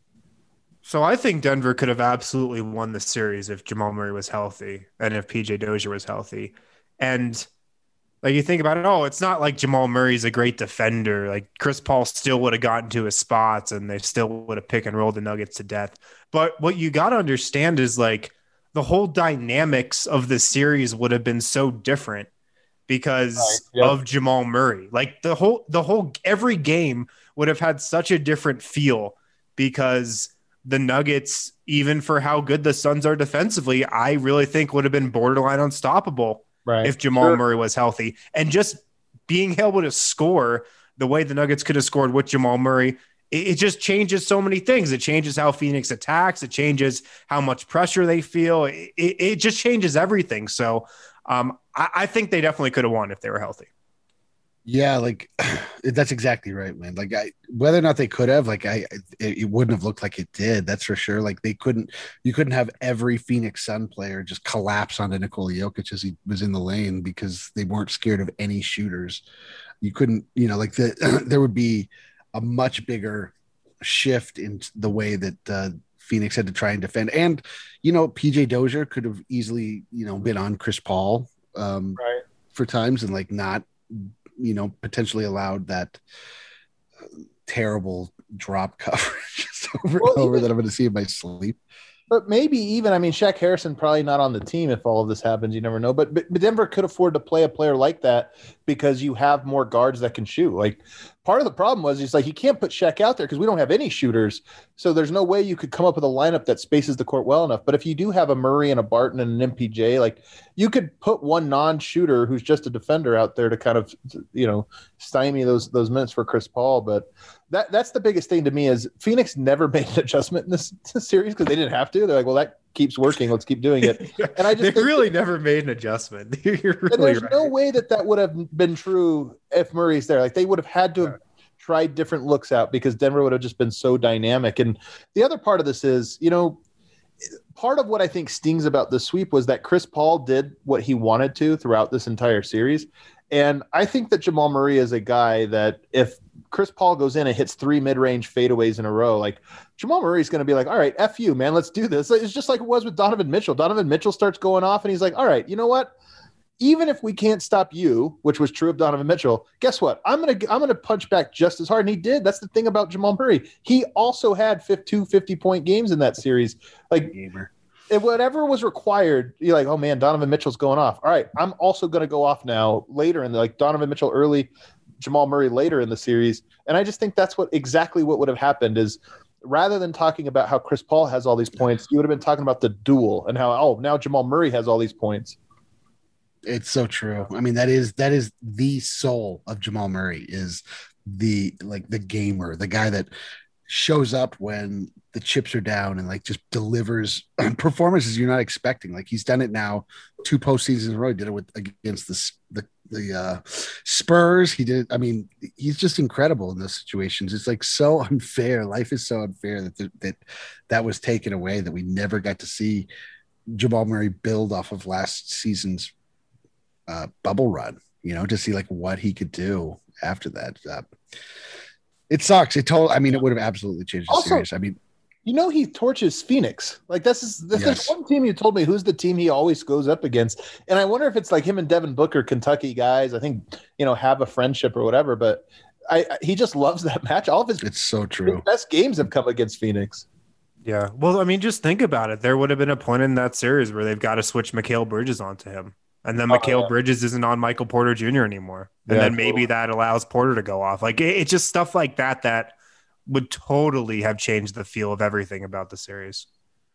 So I think Denver could have absolutely won the series if Jamal Murray was healthy and if P J Dozier was healthy. And like you think about it, oh, it's not like Jamal Murray's a great defender. Like Chris Paul still would have gotten to his spots and they still would have pick and rolled the Nuggets to death. But what you got to understand is like the whole dynamics of the series would have been so different because Right, yep. of Jamal Murray. Like the whole, the whole, every game would have had such a different feel because the Nuggets, even for how good the Suns are defensively, I really think would have been borderline unstoppable Right. if Jamal Sure. Murray was healthy. And just being able to score the way the Nuggets could have scored with Jamal Murray, it, it just changes so many things. It changes how Phoenix attacks. It changes how much pressure they feel. It, it, it just changes everything. So um, I, I think they definitely could have won if they were healthy. Yeah, like that's exactly right, man. Like I, whether or not they could have, like I, it, it wouldn't have looked like it did. That's for sure. Like they couldn't, you couldn't have every Phoenix Sun player just collapse onto Nikola Jokic as he was in the lane because they weren't scared of any shooters. You couldn't, you know, like the there would be a much bigger shift in the way that uh, Phoenix had to try and defend. And you know, P J Dozier could have easily, you know, been on Chris Paul um, Right. for times and like not. You know, potentially allowed that uh, terrible drop coverage over Well, and over even- that I'm going to see in my sleep. But maybe even, I mean, Shaq Harrison probably not on the team if all of this happens. You never know. But, but Denver could afford to play a player like that because you have more guards that can shoot. Like part of the problem was he's like, you can't put Shaq out there because we don't have any shooters. So there's no way you could come up with a lineup that spaces the court well enough. But if you do have a Murray and a Barton and an M P J, like you could put one non-shooter who's just a defender out there to kind of, you know, stymie those those minutes for Chris Paul. But that that's the biggest thing to me is Phoenix never made an adjustment in this, this series because they didn't have to. They're like, well, that keeps working. Let's keep doing it. And I just they think- really never made an adjustment. You're really and there's right. no way that that would have been true if Murray's there. Like they would have had to have tried different looks out because Denver would have just been so dynamic. And the other part of this is, you know, part of what I think stings about the sweep was that Chris Paul did what he wanted to throughout this entire series. And I think that Jamal Murray is a guy that if Chris Paul goes in and hits three mid-range fadeaways in a row, like Jamal Murray's going to be like, all right, F you, man, let's do this. It's just like it was with Donovan Mitchell. Donovan Mitchell starts going off and he's like, all right, you know what? Even if we can't stop you, which was true of Donovan Mitchell, guess what? I'm going to I'm going to punch back just as hard. And he did. That's the thing about Jamal Murray. He also had two fifty-point games in that series. Like Gamer. if whatever was required, you're like, oh man, Donovan Mitchell's going off. All right, I'm also going to go off now later in the, like Donovan Mitchell early, Jamal Murray later in the series. And I just think that's what exactly what would have happened is rather than talking about how Chris Paul has all these points, you would have been talking about the duel and how, oh, now Jamal Murray has all these points. It's so true. I mean, that is that is the soul of Jamal Murray is the like the gamer, the guy that shows up when the chips are down and like just delivers performances you're not expecting. Like he's done it now two postseasons in a row. He did it with against the the the uh, Spurs. He did. I mean, he's just incredible in those situations. It's like so unfair. Life is so unfair that th- that that was taken away. That we never got to see Jamal Murray build off of last season's uh, bubble run. You know, to see like what he could do after that. Uh, it sucks. It told. I mean, it would have absolutely changed the Also- series. I mean. You know, he torches Phoenix. Like this is this Yes. is one team you told me who's the team he always goes up against. And I wonder if it's like him and Devin Booker, Kentucky guys, I think, you know, have a friendship or whatever, but I, I he just loves that match. All of his, It's so his true. best games have come against Phoenix. Yeah. Well, I mean, just think about it. There would have been a point in that series where they've got to switch Mikal Bridges onto him. And then Oh, Mikal yeah. Bridges isn't on Michael Porter Junior anymore. And Yeah, then maybe totally. that allows Porter to go off. Like it, it's just stuff like that that would totally have changed the feel of everything about the series.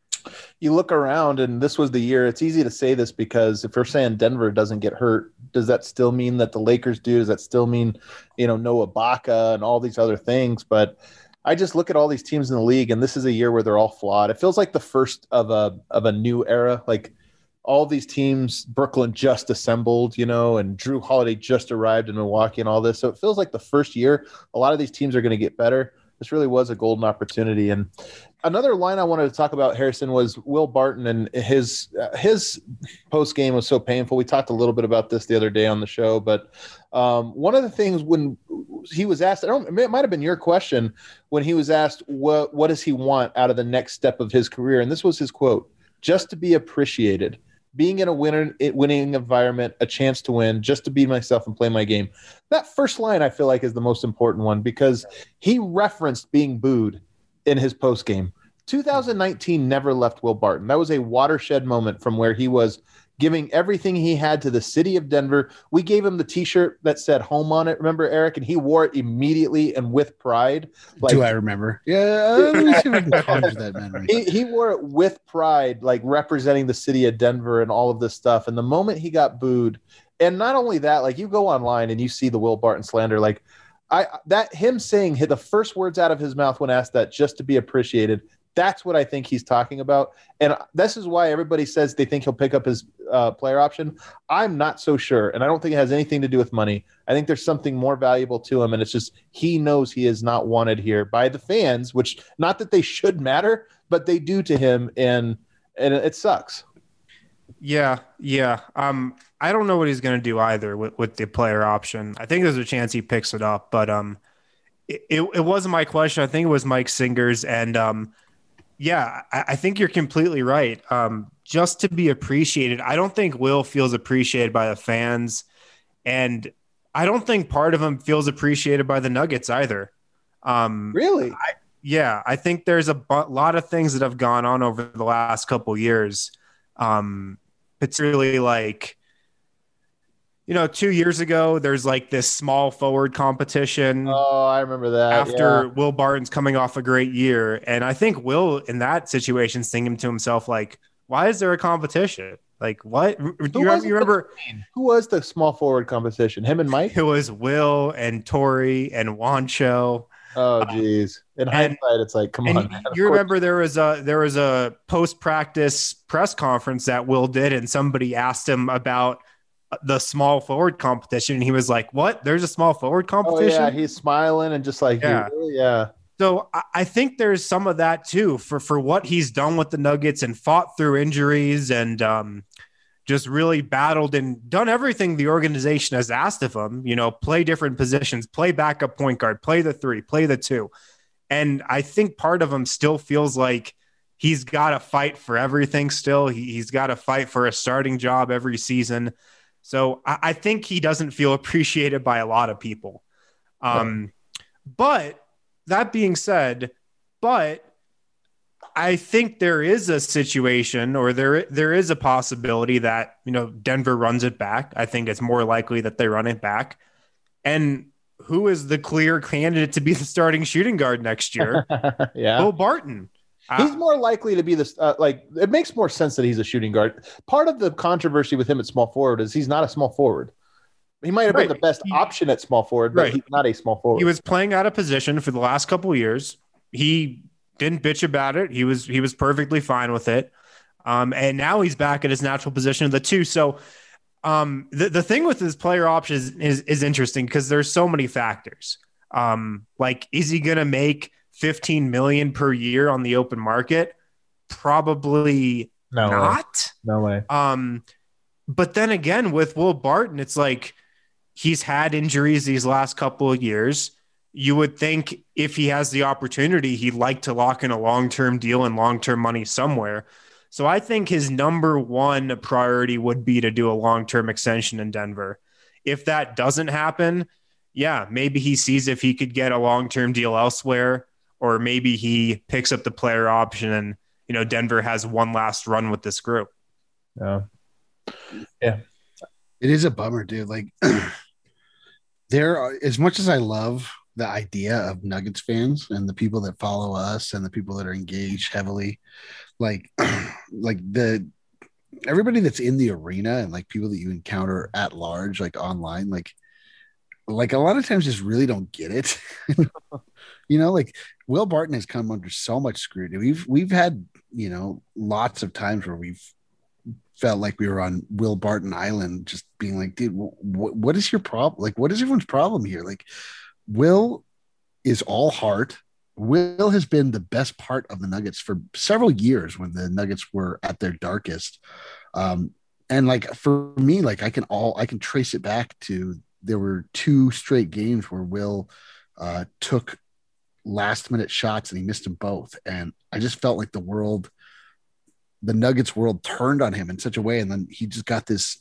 You look around, and this was the year. It's easy to say this because if we're saying Denver doesn't get hurt, does that still mean that the Lakers do? Does that still mean, you know, Noah Ibaka and all these other things? But I just look at all these teams in the league, and this is a year where they're all flawed. It feels like the first of a of a new era. Like all these teams, Brooklyn just assembled, you know, and Drew Holiday just arrived in Milwaukee and all this. So it feels like the first year, a lot of these teams are going to get better. This really was a golden opportunity. And another line I wanted to talk about, Harrison, was Will Barton, and his uh, his post game was so painful. We talked a little bit about this the other day on the show, but um, one of the things when he was asked, I don't, it might have been your question, when he was asked what what does he want out of the next step of his career, and this was his quote: "Just to be appreciated." Being in a winner, winning environment, a chance to win, just to be myself and play my game. That first line, I feel like, is the most important one because he referenced being booed in his post game. two thousand nineteen never left Will Barton. That was a watershed moment from where he was giving everything he had to the city of Denver. We gave him the T-shirt that said "home" on it. Remember, Eric? And he wore it immediately and with pride. Like, Do I remember? Yeah, uh, let me see if I can conjure that memory. He, he wore it with pride, like representing the city of Denver and all of this stuff. And the moment he got booed, and not only that, like you go online and you see the Will Barton slander, like I that him saying the first words out of his mouth when asked that, just to be appreciated. That's what I think he's talking about. And this is why everybody says they think he'll pick up his uh, player option. I'm not so sure. And I don't think it has anything to do with money. I think there's something more valuable to him. And it's just he knows he is not wanted here by the fans, which not that they should matter, but they do to him. And and it sucks. Yeah, yeah. Um, I don't know what he's going to do either with, with the player option. I think there's a chance he picks it up, but um, it, it, it wasn't my question. I think it was Mike Singer's. And um, yeah, I, I think you're completely right. Um, just to be appreciated. I don't think Will feels appreciated by the fans. And I don't think part of him feels appreciated by the Nuggets either. Um, Really? I, yeah, I think there's a bu- lot of things that have gone on over the last couple years. Um, particularly like, you know, two years ago, there's like this small forward competition Oh, I remember that. after yeah. Will Barton's coming off a great year. And I think Will in that situation is thinking to himself, like, why is there a competition? Like, what? You Who remember, was it you remember Who was the small forward competition? Him and Mike? it was Will and Tori and Wancho. Oh, geez. In and- hindsight, it's like, come And on, man. Of you course. remember there was a there was a post practice press conference that Will did, and somebody asked him about the small forward competition, and he was like, "What? There's a small forward Oh, competition?" yeah. He's smiling and just like, Yeah. yeah. yeah. So I- I think there's some of that too for for what he's done with the Nuggets and fought through injuries and um, just really battled and done everything the organization has asked of him. You know, play different positions, play backup point guard, play the three, play the two. And I think part of him still feels like he's got to fight for everything still. He, he's got to fight for a starting job every season. So I, I think he doesn't feel appreciated by a lot of people. Um, but that being said, but I think there is a situation or there there is a possibility that, you know, Denver runs it back. I think it's more likely that they run it back. And who is the clear candidate to be the starting shooting guard next year? yeah. Will Barton. He's Uh, more likely to be this, uh, like, it makes more sense that he's a shooting guard. Part of the controversy with him at small forward is he's not a small forward. He might have Right. been the best He- option at small forward, but Right. he's not a small forward. he was playing out of position for the last couple of years. He didn't bitch about it. He was he was perfectly fine with it. Um, and now he's back at his natural position of the two. So um, the, the thing with his player options is, is, is interesting because there's so many factors. Um, like, is he going to make fifteen million per year on the open market? Probably no way. not. No way. Um, but then again, with Will Barton, it's like he's had injuries these last couple of years. you would think if he has the opportunity, he'd like to lock in a long-term deal and long-term money somewhere. So I think his number one priority would be to do a long-term extension in Denver. If that doesn't happen, yeah, maybe he sees if he could get a long-term deal elsewhere, or maybe he picks up the player option and, you know, Denver has one last run with this group. Yeah. Yeah. It is a bummer, dude. Like there are, as much as I love the idea of Nuggets fans and the people that follow us and the people that are engaged heavily, like, like the, everybody that's in the arena and like people that you encounter at large, like online, like, like a lot of times just really don't get it. You know, like Will Barton has come under so much scrutiny. We've, we've had, you know, lots of times where we've felt like we were on Will Barton Island, just being like, dude, wh- what is your problem? Like, what is everyone's problem here? Like, Will is all heart. Will has been the best part of the Nuggets for several years when the Nuggets were at their darkest. Um, and like, for me, like I can all, I can trace it back to, there were two straight games where Will uh, took last minute shots and he missed them both. And I just felt like the world, the Nuggets world turned on him in such a way. And then he just got this,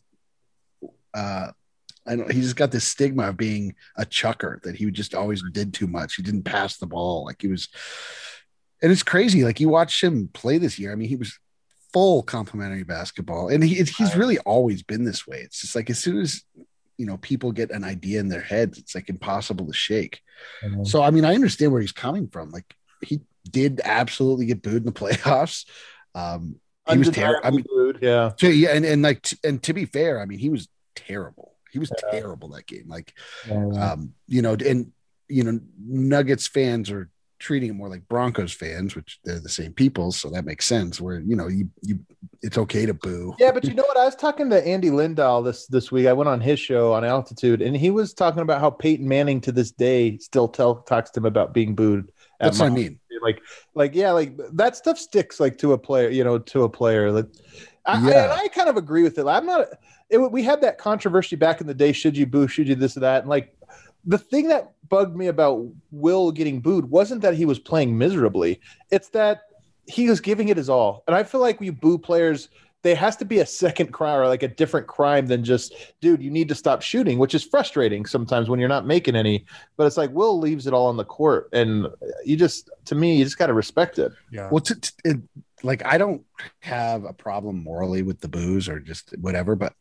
uh, I don't, he just got this stigma of being a chucker, that he just always did too much. He didn't pass the ball. Like he was, and it's crazy. Like you watch him play this year. I mean, he was full complimentary basketball, and he, he's really always been this way. It's just like, as soon as, you know, people get an idea in their heads, it's like impossible to shake. Mm-hmm. So, I mean, I understand where he's coming from. Like he did absolutely get booed in the playoffs. Um, he was terrible. I mean, booed, yeah. So, yeah. And, and like, t- and to be fair, I mean, he was terrible. He was yeah. terrible that game. Like, yeah. um, you know, and, you know, Nuggets fans are treating it more like Broncos fans, which they're the same people. So that makes sense where, you know, you, you, it's okay to boo. Yeah. But you know what? I was talking to Andy Lindahl this, this week. I went on his show on Altitude, and he was talking about how Peyton Manning to this day still tell, talks to him about being booed. That's what I mean. Like, like, yeah, like that stuff sticks like to a player, you know, to a player. Like, I, yeah. I, I kind of agree with it. I'm not, it, we had that controversy back in the day. Should you boo? Should you this or that? And like, the thing that bugged me about Will getting booed wasn't that he was playing miserably. It's that he was giving it his all. And I feel like when you boo players, there has to be a second crime or like a different crime than just, dude, you need to stop shooting, which is frustrating sometimes when you're not making any. But it's like Will leaves it all on the court. And you just, to me, you just got to respect it. Yeah. Well, to, to, it, like, I don't have a problem morally with the boos or just whatever, but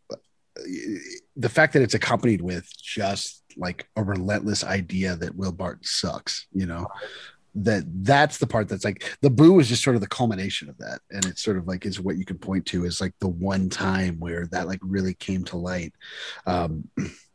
the fact that it's accompanied with just like a relentless idea that Will Barton sucks, you know, that that's the part that's like the boo is just sort of the culmination of that. And it's sort of like is what you can point to as like the one time where that like really came to light. Um,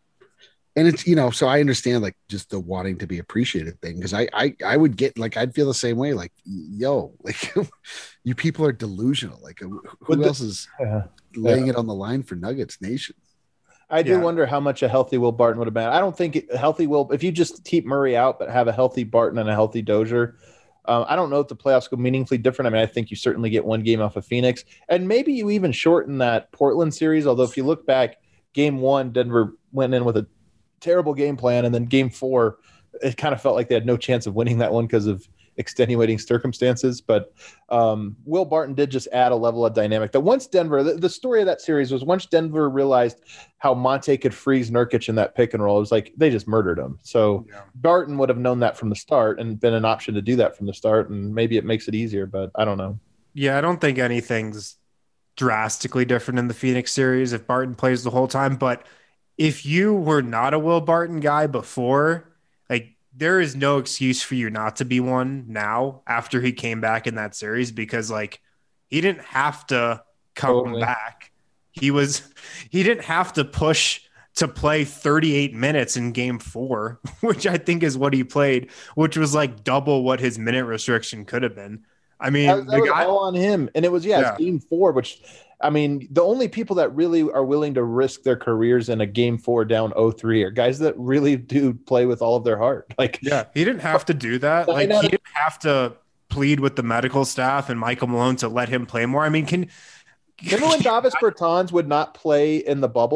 and it's, you know, so I understand like just the wanting to be appreciated thing. Cause I, I, I would get like, I'd feel the same way. Like, yo, like you people are delusional. Like who the, else is yeah, laying yeah. it on the line for Nuggets Nation? I do yeah. wonder how much a healthy Will Barton would have been. I don't think it, healthy Will, if you just keep Murray out, but have a healthy Barton and a healthy Dozier, um, I don't know if the playoffs go meaningfully different. I mean, I think you certainly get one game off of Phoenix, and maybe you even shorten that Portland series. Although if you look back, game one, Denver went in with a terrible game plan, and then game four, it kind of felt like they had no chance of winning that one because of extenuating circumstances. But um, Will Barton did just add a level of dynamic that once Denver, the, the story of that series was once Denver realized how Monte could freeze Nurkic in that pick and roll, it was like they just murdered him. So yeah. Barton would have known that from the start and been an option to do that from the start. And maybe it makes it easier, but I don't know. Yeah, I don't think anything's drastically different in the Phoenix series if Barton plays the whole time. But if you were not a Will Barton guy before, like, there is no excuse for you not to be one now after he came back in that series, because like he didn't have to come totally. back. He was, he didn't have to push to play thirty-eight minutes in game four, which I think is what he played, which was like double what his minute restriction could have been. I mean, that, that the was guy, all on him. And it was, yeah, yeah. It's game four, which I mean, the only people that really are willing to risk their careers in a game four down oh three are guys that really do play with all of their heart. Like, yeah, he didn't have to do that. Like, he didn't have to plead with the medical staff and Michael Malone to let him play more. I mean, can remember when Davis Bertans would not play in the bubble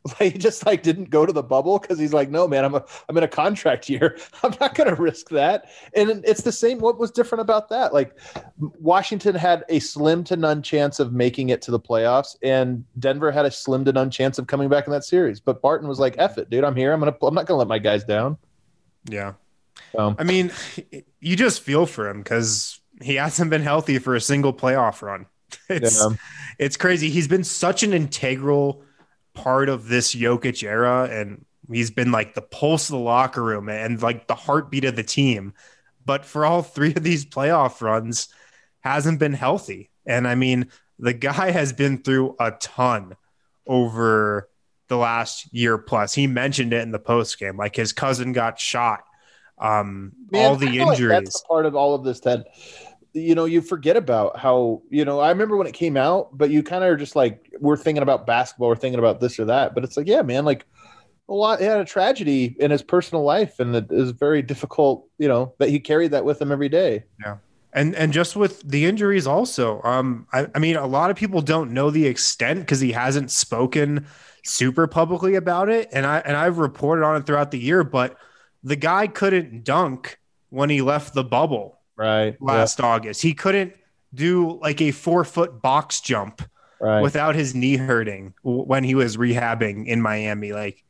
Like, he just like didn't go to the bubble because he's like, no, man, I'm a, I'm in a contract year. I'm not going to risk that. And it's the same. What was different about that? Like, Washington had a slim to none chance of making it to the playoffs, and Denver had a slim to none chance of coming back in that series. But Barton was like, F it, dude. I'm here. I'm gonna. I'm not going to let my guys down. Yeah. Um, I mean, you just feel for him because he hasn't been healthy for a single playoff run. It's yeah. it's crazy. He's been such an integral part of this Jokic era, and he's been like the pulse of the locker room and like the heartbeat of the team. But for all three of these playoff runs, hasn't been healthy. And I mean, the guy has been through a ton over the last year plus. He mentioned it in the post game, like his cousin got shot. Um, Man, all the I feel injuries. like that's the part of all of this that, you know, you forget about how, you know, I remember when it came out, but you kind of are just like, we're thinking about basketball, we're thinking about this or that. But it's like, yeah, man, like a lot, he had a tragedy in his personal life, and it is very difficult, you know, that he carried that with him every day. Yeah. And and just with the injuries also, um, I, I mean, a lot of people don't know the extent because he hasn't spoken super publicly about it. And I and I've reported on it throughout the year, but the guy couldn't dunk when he left the bubble. Right. Last yeah. August. He couldn't do like a four foot box jump right. without his knee hurting when he was rehabbing in Miami. Like,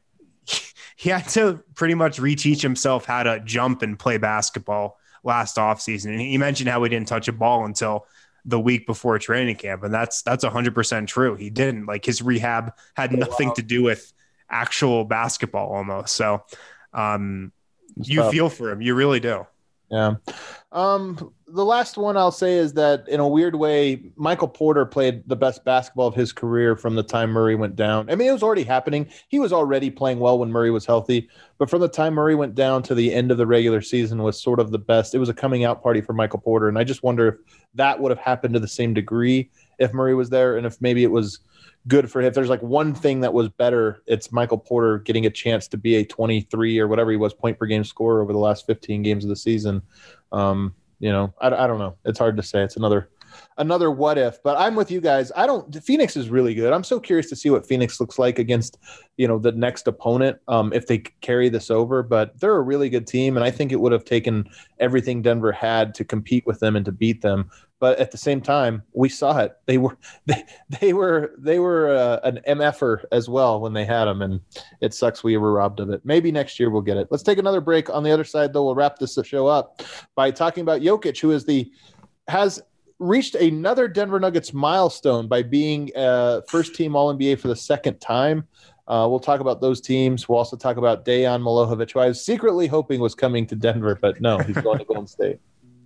he had to pretty much reteach himself how to jump and play basketball last offseason. And he mentioned how he didn't touch a ball until the week before training camp. And that's, that's one hundred percent true. He didn't. Like, his rehab had nothing wow. to do with actual basketball almost. So um, you tough. feel for him. You really do. Yeah. Um, the last one I'll say is that, in a weird way, Michael Porter played the best basketball of his career from the time Murray went down. I mean, it was already happening. He was already playing well when Murray was healthy, but from the time Murray went down to the end of the regular season was sort of the best. It was a coming out party for Michael Porter. And I just wonder if that would have happened to the same degree if Murray was there, and if maybe it was good for him. If there's like one thing that was better, it's Michael Porter getting a chance to be a twenty-three or whatever he was point per game scorer over the last fifteen games of the season. Um, you know, I, I don't know. It's hard to say. It's another, another what if, but I'm with you guys. I don't, Phoenix is really good. I'm so curious to see what Phoenix looks like against, you know, the next opponent. Um, if they carry this over, but they're a really good team. And I think it would have taken everything Denver had to compete with them and to beat them. But at the same time, we saw it. They were they, they were they were uh, an M F-er as well when they had them, and it sucks we were robbed of it. Maybe next year we'll get it. Let's take another break. On the other side, though, we'll wrap this show up by talking about Jokic, who is the has reached another Denver Nuggets milestone by being uh, first team All N B A for the second time. Uh, we'll talk about those teams. We'll also talk about Dejan Milojevic, who I was secretly hoping was coming to Denver, but no, he's going to Golden State.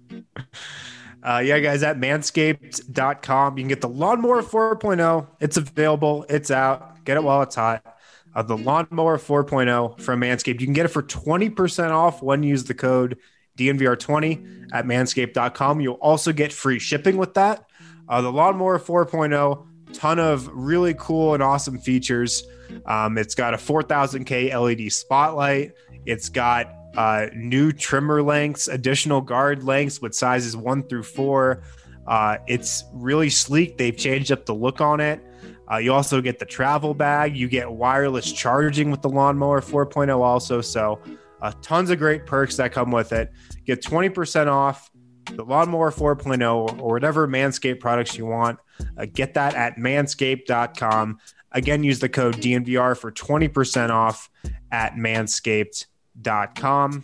Uh, yeah, guys, at manscaped dot com, you can get the Lawnmower four point oh. It's available. It's out. Get it while it's hot. Uh, the Lawnmower four point oh from Manscaped. You can get it for twenty percent off when you use the code D N V R twenty at manscaped dot com. You'll also get free shipping with that. Uh, the Lawnmower four point oh, ton of really cool and awesome features. Um, it's got a four thousand K L E D spotlight. It's got uh, new trimmer lengths, additional guard lengths with sizes one through four. Uh, it's really sleek. They've changed up the look on it. Uh, you also get the travel bag. You get wireless charging with the Lawnmower four point oh also. So uh, tons of great perks that come with it. Get twenty percent off the Lawnmower four point oh or whatever Manscaped products you want. Uh, get that at manscaped dot com. Again, use the code D N V R for twenty percent off at manscaped dot com.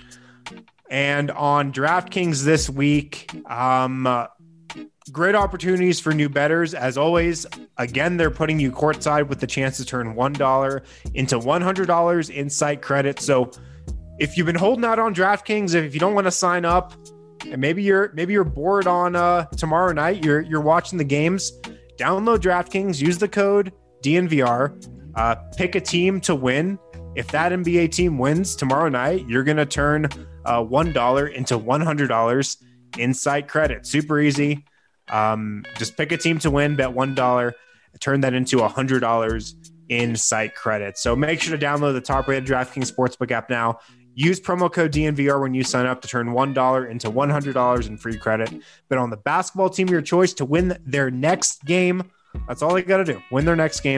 And on DraftKings this week, um, uh, great opportunities for new bettors. As always, again, they're putting you courtside with the chance to turn one dollar into one hundred dollars in site credit. So if you've been holding out on DraftKings, if you don't want to sign up, and maybe you're maybe you're bored on uh, tomorrow night, you're you're watching the games, download DraftKings, use the code D N V R, uh, pick a team to win. If that N B A team wins tomorrow night, you're going to turn uh, one dollar into one hundred dollars in site credit. Super easy. Um, just pick a team to win, bet one dollar, turn that into one hundred dollars in site credit. So make sure to download the top-rated DraftKings Sportsbook app now. Use promo code D N V R when you sign up to turn one dollar into one hundred dollars in free credit. Bet on the basketball team of your choice to win their next game. That's all they got to do. Win their next game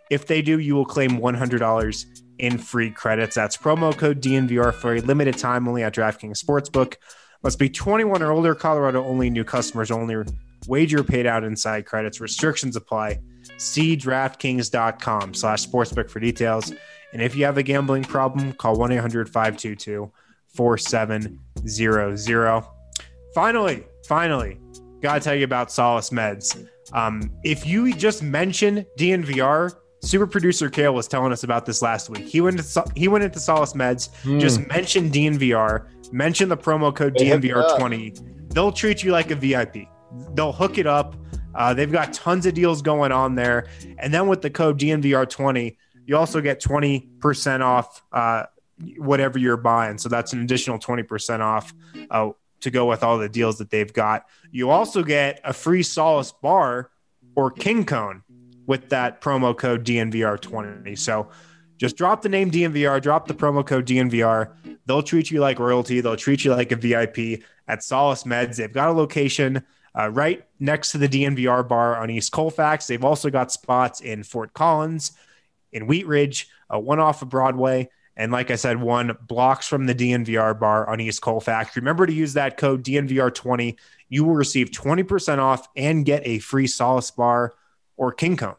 If they do, you will claim one hundred dollars in free credits. That's promo code D N V R for a limited time only at DraftKings Sportsbook. Must be twenty-one or older, Colorado only, new customers only. Wager paid out inside credits. Restrictions apply. See DraftKings.com slash sportsbook for details. And if you have a gambling problem, call one eight hundred five two two four seven zero zero. Finally, finally, gotta tell you about Solace Meds. Um, if you just mention D N V R, super producer Kale was telling us about this last week. He went to he went into Solace Meds, mm. just mention D N V R, mention the promo code D N V R twenty. They'll treat you like a V I P. They'll hook it up. Uh, they've got tons of deals going on there. And then with the code D N V R twenty, you also get twenty percent off uh, whatever you're buying. So that's an additional twenty percent off uh, to go with all the deals that they've got. You also get a free Solace bar or King Cone with that promo code D N V R twenty. So just drop the name D N V R, drop the promo code D N V R. They'll treat you like royalty. They'll treat you like a V I P at Solace Meds. They've got a location uh, right next to the D N V R bar on East Colfax. They've also got spots in Fort Collins, in Wheat Ridge, uh, one off of Broadway, and like I said, one blocks from the D N V R bar on East Colfax. Remember to use that code D N V R twenty. You will receive twenty percent off and get a free Solace bar or King Cone.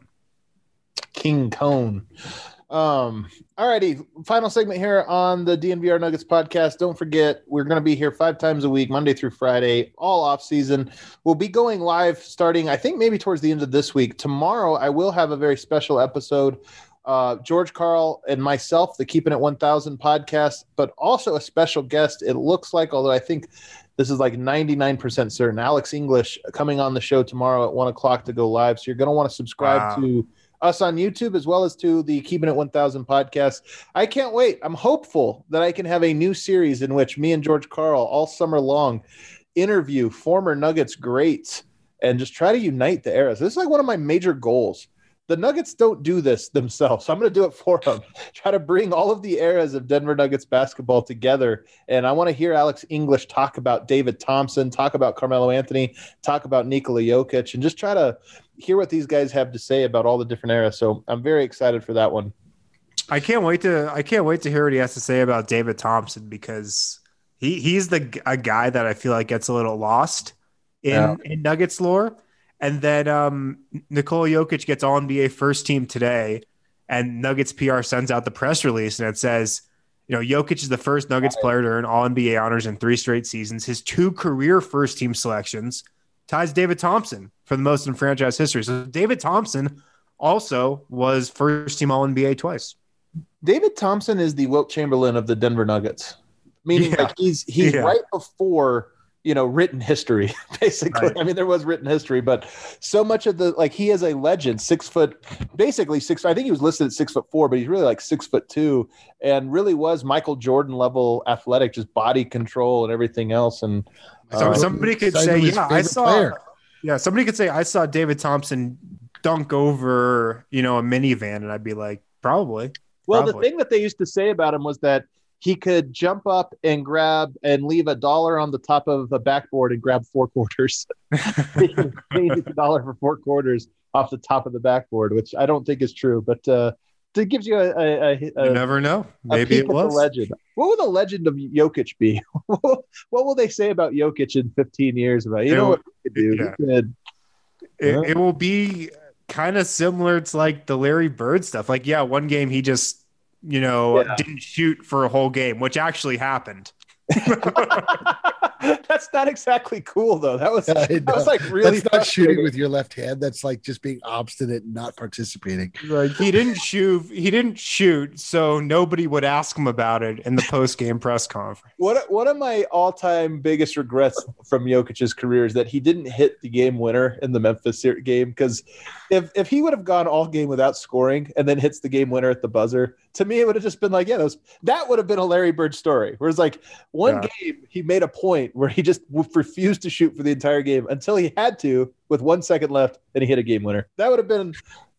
King Cone. Um, all righty. Final segment here on the D N V R Nuggets podcast. Don't forget, we're going to be here five times a week, Monday through Friday, all off season. We'll be going live starting, I think, maybe towards the end of this week. Tomorrow, I will have a very special episode. Uh, George Karl and myself, the Keeping It one thousand podcast, but also a special guest. It looks like, although I think this is like ninety-nine percent certain, Alex English coming on the show tomorrow at one o'clock to go live. So you're going to want to subscribe wow. to us on YouTube as well as to the Keeping It one thousand podcast. I can't wait. I'm hopeful that I can have a new series in which me and George Karl all summer long interview former Nuggets greats and just try to unite the eras. This is like one of my major goals. The Nuggets don't do this themselves, so I'm going to do it for them. Try to bring all of the eras of Denver Nuggets basketball together, and I want to hear Alex English talk about David Thompson, talk about Carmelo Anthony, talk about Nikola Jokic, and just try to hear what these guys have to say about all the different eras. So I'm very excited for that one. I can't wait to I can't wait to hear what he has to say about David Thompson, because he he's the a guy that I feel like gets a little lost in, yeah. in Nuggets lore. And then um, Nikola Jokic gets All N B A first team today, and Nuggets P R sends out the press release, and it says, you know, Jokic is the first Nuggets player to earn All N B A honors in three straight seasons. His two career first team selections ties David Thompson for the most in franchise history. So David Thompson also was first team All N B A twice. David Thompson is the Wilt Chamberlain of the Denver Nuggets, meaning yeah. like he's he's yeah. right before, you know, written history, basically. Right. I mean, there was written history, but so much of the, like, he is a legend, six foot, basically six. I think he was listed at six foot four, but he's really like six foot two, and really was Michael Jordan level athletic, just body control and everything else. And so uh, somebody could say, yeah, I saw, player. yeah, somebody could say, I saw David Thompson dunk over, you know, a minivan, and I'd be like, probably. Well, probably. The thing that they used to say about him was that he could jump up and grab and leave a dollar on the top of a backboard and grab four quarters. He needs a dollar for four quarters off the top of the backboard, which I don't think is true, but uh, it gives you a, a, a, you never know. Maybe it was. Legend. What will the legend of Jokic be? What will they say about Jokic in fifteen years? About you it know will, what he could do? Yeah. He could, it, yeah. it will be kind of similar to like the Larry Bird stuff. Like, yeah, one game he just, you know, yeah. didn't shoot for a whole game, which actually happened. That's not exactly cool, though. That was that was like really That's not shooting with your left hand. That's like just being obstinate and not participating. Like he didn't shoot. He didn't shoot, so nobody would ask him about it in the post game press conference. What one of my all time biggest regrets from Jokic's career is that he didn't hit the game winner in the Memphis game. Because if if he would have gone all game without scoring and then hits the game winner at the buzzer, to me it would have just been like, yeah, that, was, that would have been a Larry Bird story. Whereas like one yeah. game he made a point where he just refused to shoot for the entire game until he had to with one second left, and he hit a game winner. That would have been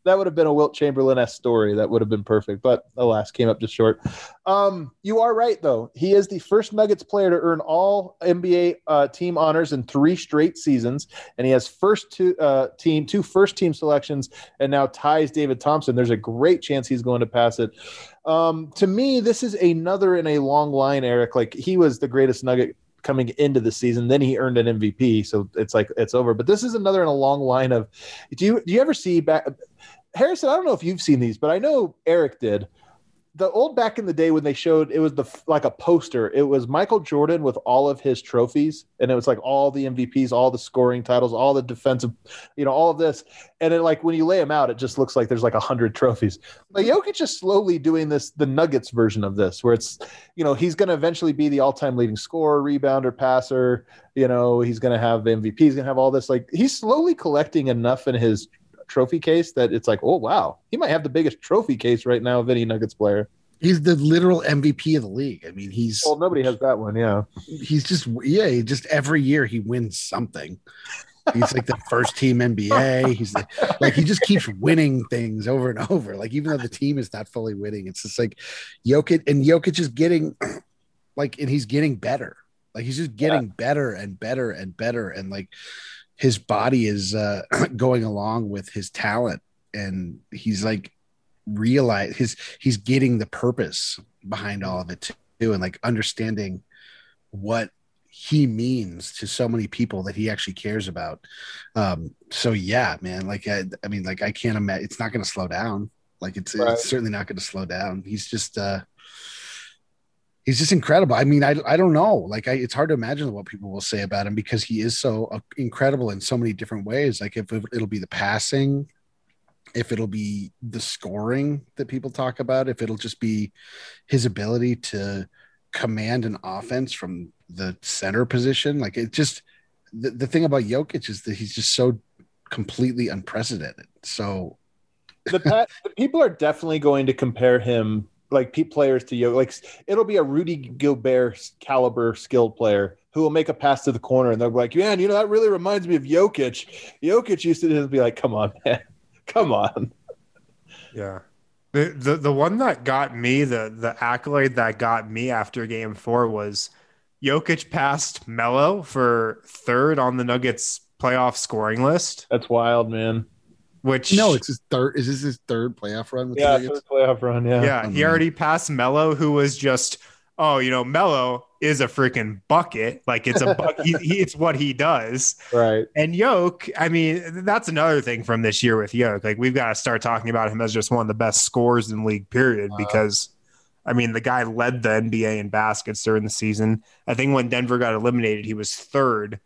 that would have been a Wilt Chamberlain-esque story. That would have been perfect, but alas, came up just short. Um, you are right, though. He is the first Nuggets player to earn all N B A uh, team honors in three straight seasons, and he has first two uh, team, two first team selections, and now ties David Thompson. There's a great chance he's going to pass it. Um, to me, this is another in a long line, Eric. Like, he was the greatest Nugget coming into the season, then he earned an M V P, so it's like it's over. But this is another in a long line of. Do you do you ever see back, Harrison? I don't know if you've seen these, but I know Eric did. The old back in the day when they showed it was the like a poster. It was Michael Jordan with all of his trophies, and it was like all the M V Ps, all the scoring titles, all the defensive, you know, all of this. And it, like when you lay them out, it just looks like there's like a hundred trophies. But Jokic is slowly doing this, the Nuggets version of this, where it's, you know, he's going to eventually be the all-time leading scorer, rebounder, passer. You know, he's going to have M V P. He's going to have all this. Like, he's slowly collecting enough in his trophy case that it's like, oh wow, he might have the biggest trophy case right now of any Nuggets player. He's the literal M V P of the league. I mean, he's well, nobody has that one. Yeah, he's just yeah, he just every year he wins something. He's like the first team N B A. He's like, like he just keeps winning things over and over. Like, even though the team is not fully winning, it's just like Jokic, and Jokic is getting like, and he's getting better. Like, he's just getting yeah. better and better and better, and like his body is uh, going along with his talent, and he's like realize his he's getting the purpose behind all of it too, and like understanding what he means to so many people that he actually cares about. Um, so yeah, man, like I, I mean, like I can't imagine it's not going to slow down. Like it's, right. it's certainly not going to slow down. He's just uh, he's just incredible. I mean, I I don't know. Like I, it's hard to imagine what people will say about him because he is so uh, incredible in so many different ways. Like if it, it'll be the passing, if it'll be the scoring that people talk about, if it'll just be his ability to command an offense from the center position. Like it just, the, the thing about Jokic is that he's just so completely unprecedented. So the, the people are definitely going to compare him, like players to Jokic. Like it'll be a Rudy Gobert caliber skilled player who will make a pass to the corner and they'll be like, man, you know, that really reminds me of Jokic. Jokic used to just be like, come on, man. Come on. Yeah. The, the the one that got me, the the accolade that got me after game four was Jokic passed Melo for third on the Nuggets playoff scoring list. That's wild, man. Which no, it's his third. Is this his third playoff run? With yeah, the third playoff run. Yeah. Yeah. He already passed Melo, who was just, oh, you know, Melo is a freaking bucket. Like it's a bucket. he, he, it's what he does. Right. And Yoke, I mean, that's another thing from this year with Yoke. Like we've got to start talking about him as just one of the best scorers in league period, wow. because I mean, the guy led the N B A in baskets during the season. I think when Denver got eliminated, he was third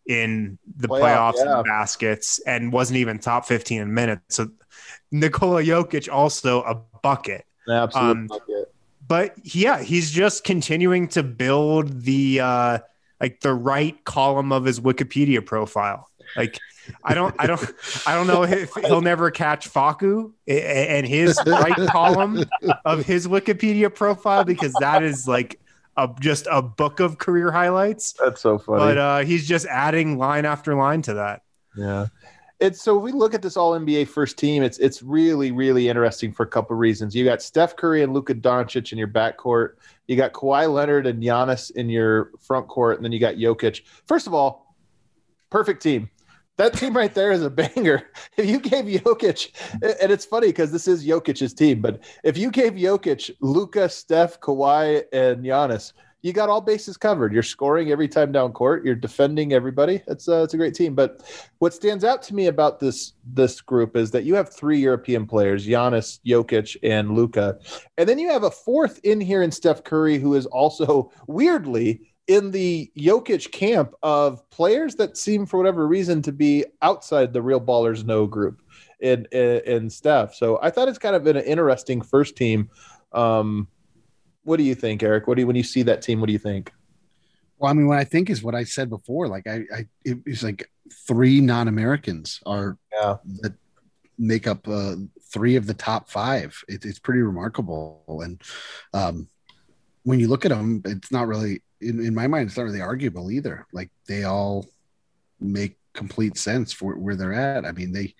in the Playoff, playoffs yeah. in baskets and wasn't even top fifteen in minutes. So Nikola Jokic, also a bucket. Absolute um, bucket. But yeah, he's just continuing to build the uh, like the right column of his Wikipedia profile. Like I don't, I don't, I don't know if he'll never catch Facu and his right column of his Wikipedia profile, because that is like a just a book of career highlights. That's so funny. But uh, he's just adding line after line to that. Yeah. It's so if we look at this all N B A first team, it's it's really, really interesting for a couple of reasons. You got Steph Curry and Luka Doncic in your backcourt. You got Kawhi Leonard and Giannis in your front court, and then you got Jokic. First of all, perfect team. That team right there is a banger. If you gave Jokic, and it's funny because this is Jokic's team, but if you gave Jokic, Luka, Steph, Kawhi, and Giannis, you got all bases covered. You're scoring every time down court. You're defending everybody. It's a, it's a great team. But what stands out to me about this this group is that you have three European players, Giannis, Jokic, and Luka. And then you have a fourth in here in Steph Curry, who is also weirdly in the Jokic camp of players that seem for whatever reason to be outside the real ballers know group in, in, in Steph. So I thought it's kind of been an interesting first team. Um, What do you think, Eric? What do you, when you see that team, what do you think? Well, I mean, what I think is what I said before. Like, I, I it was like three non-Americans are yeah. that make up uh, three of the top five. It, it's pretty remarkable. And um, when you look at them, it's not really, in, in my mind, it's not really arguable either. Like, they all make complete sense for where they're at. I mean, they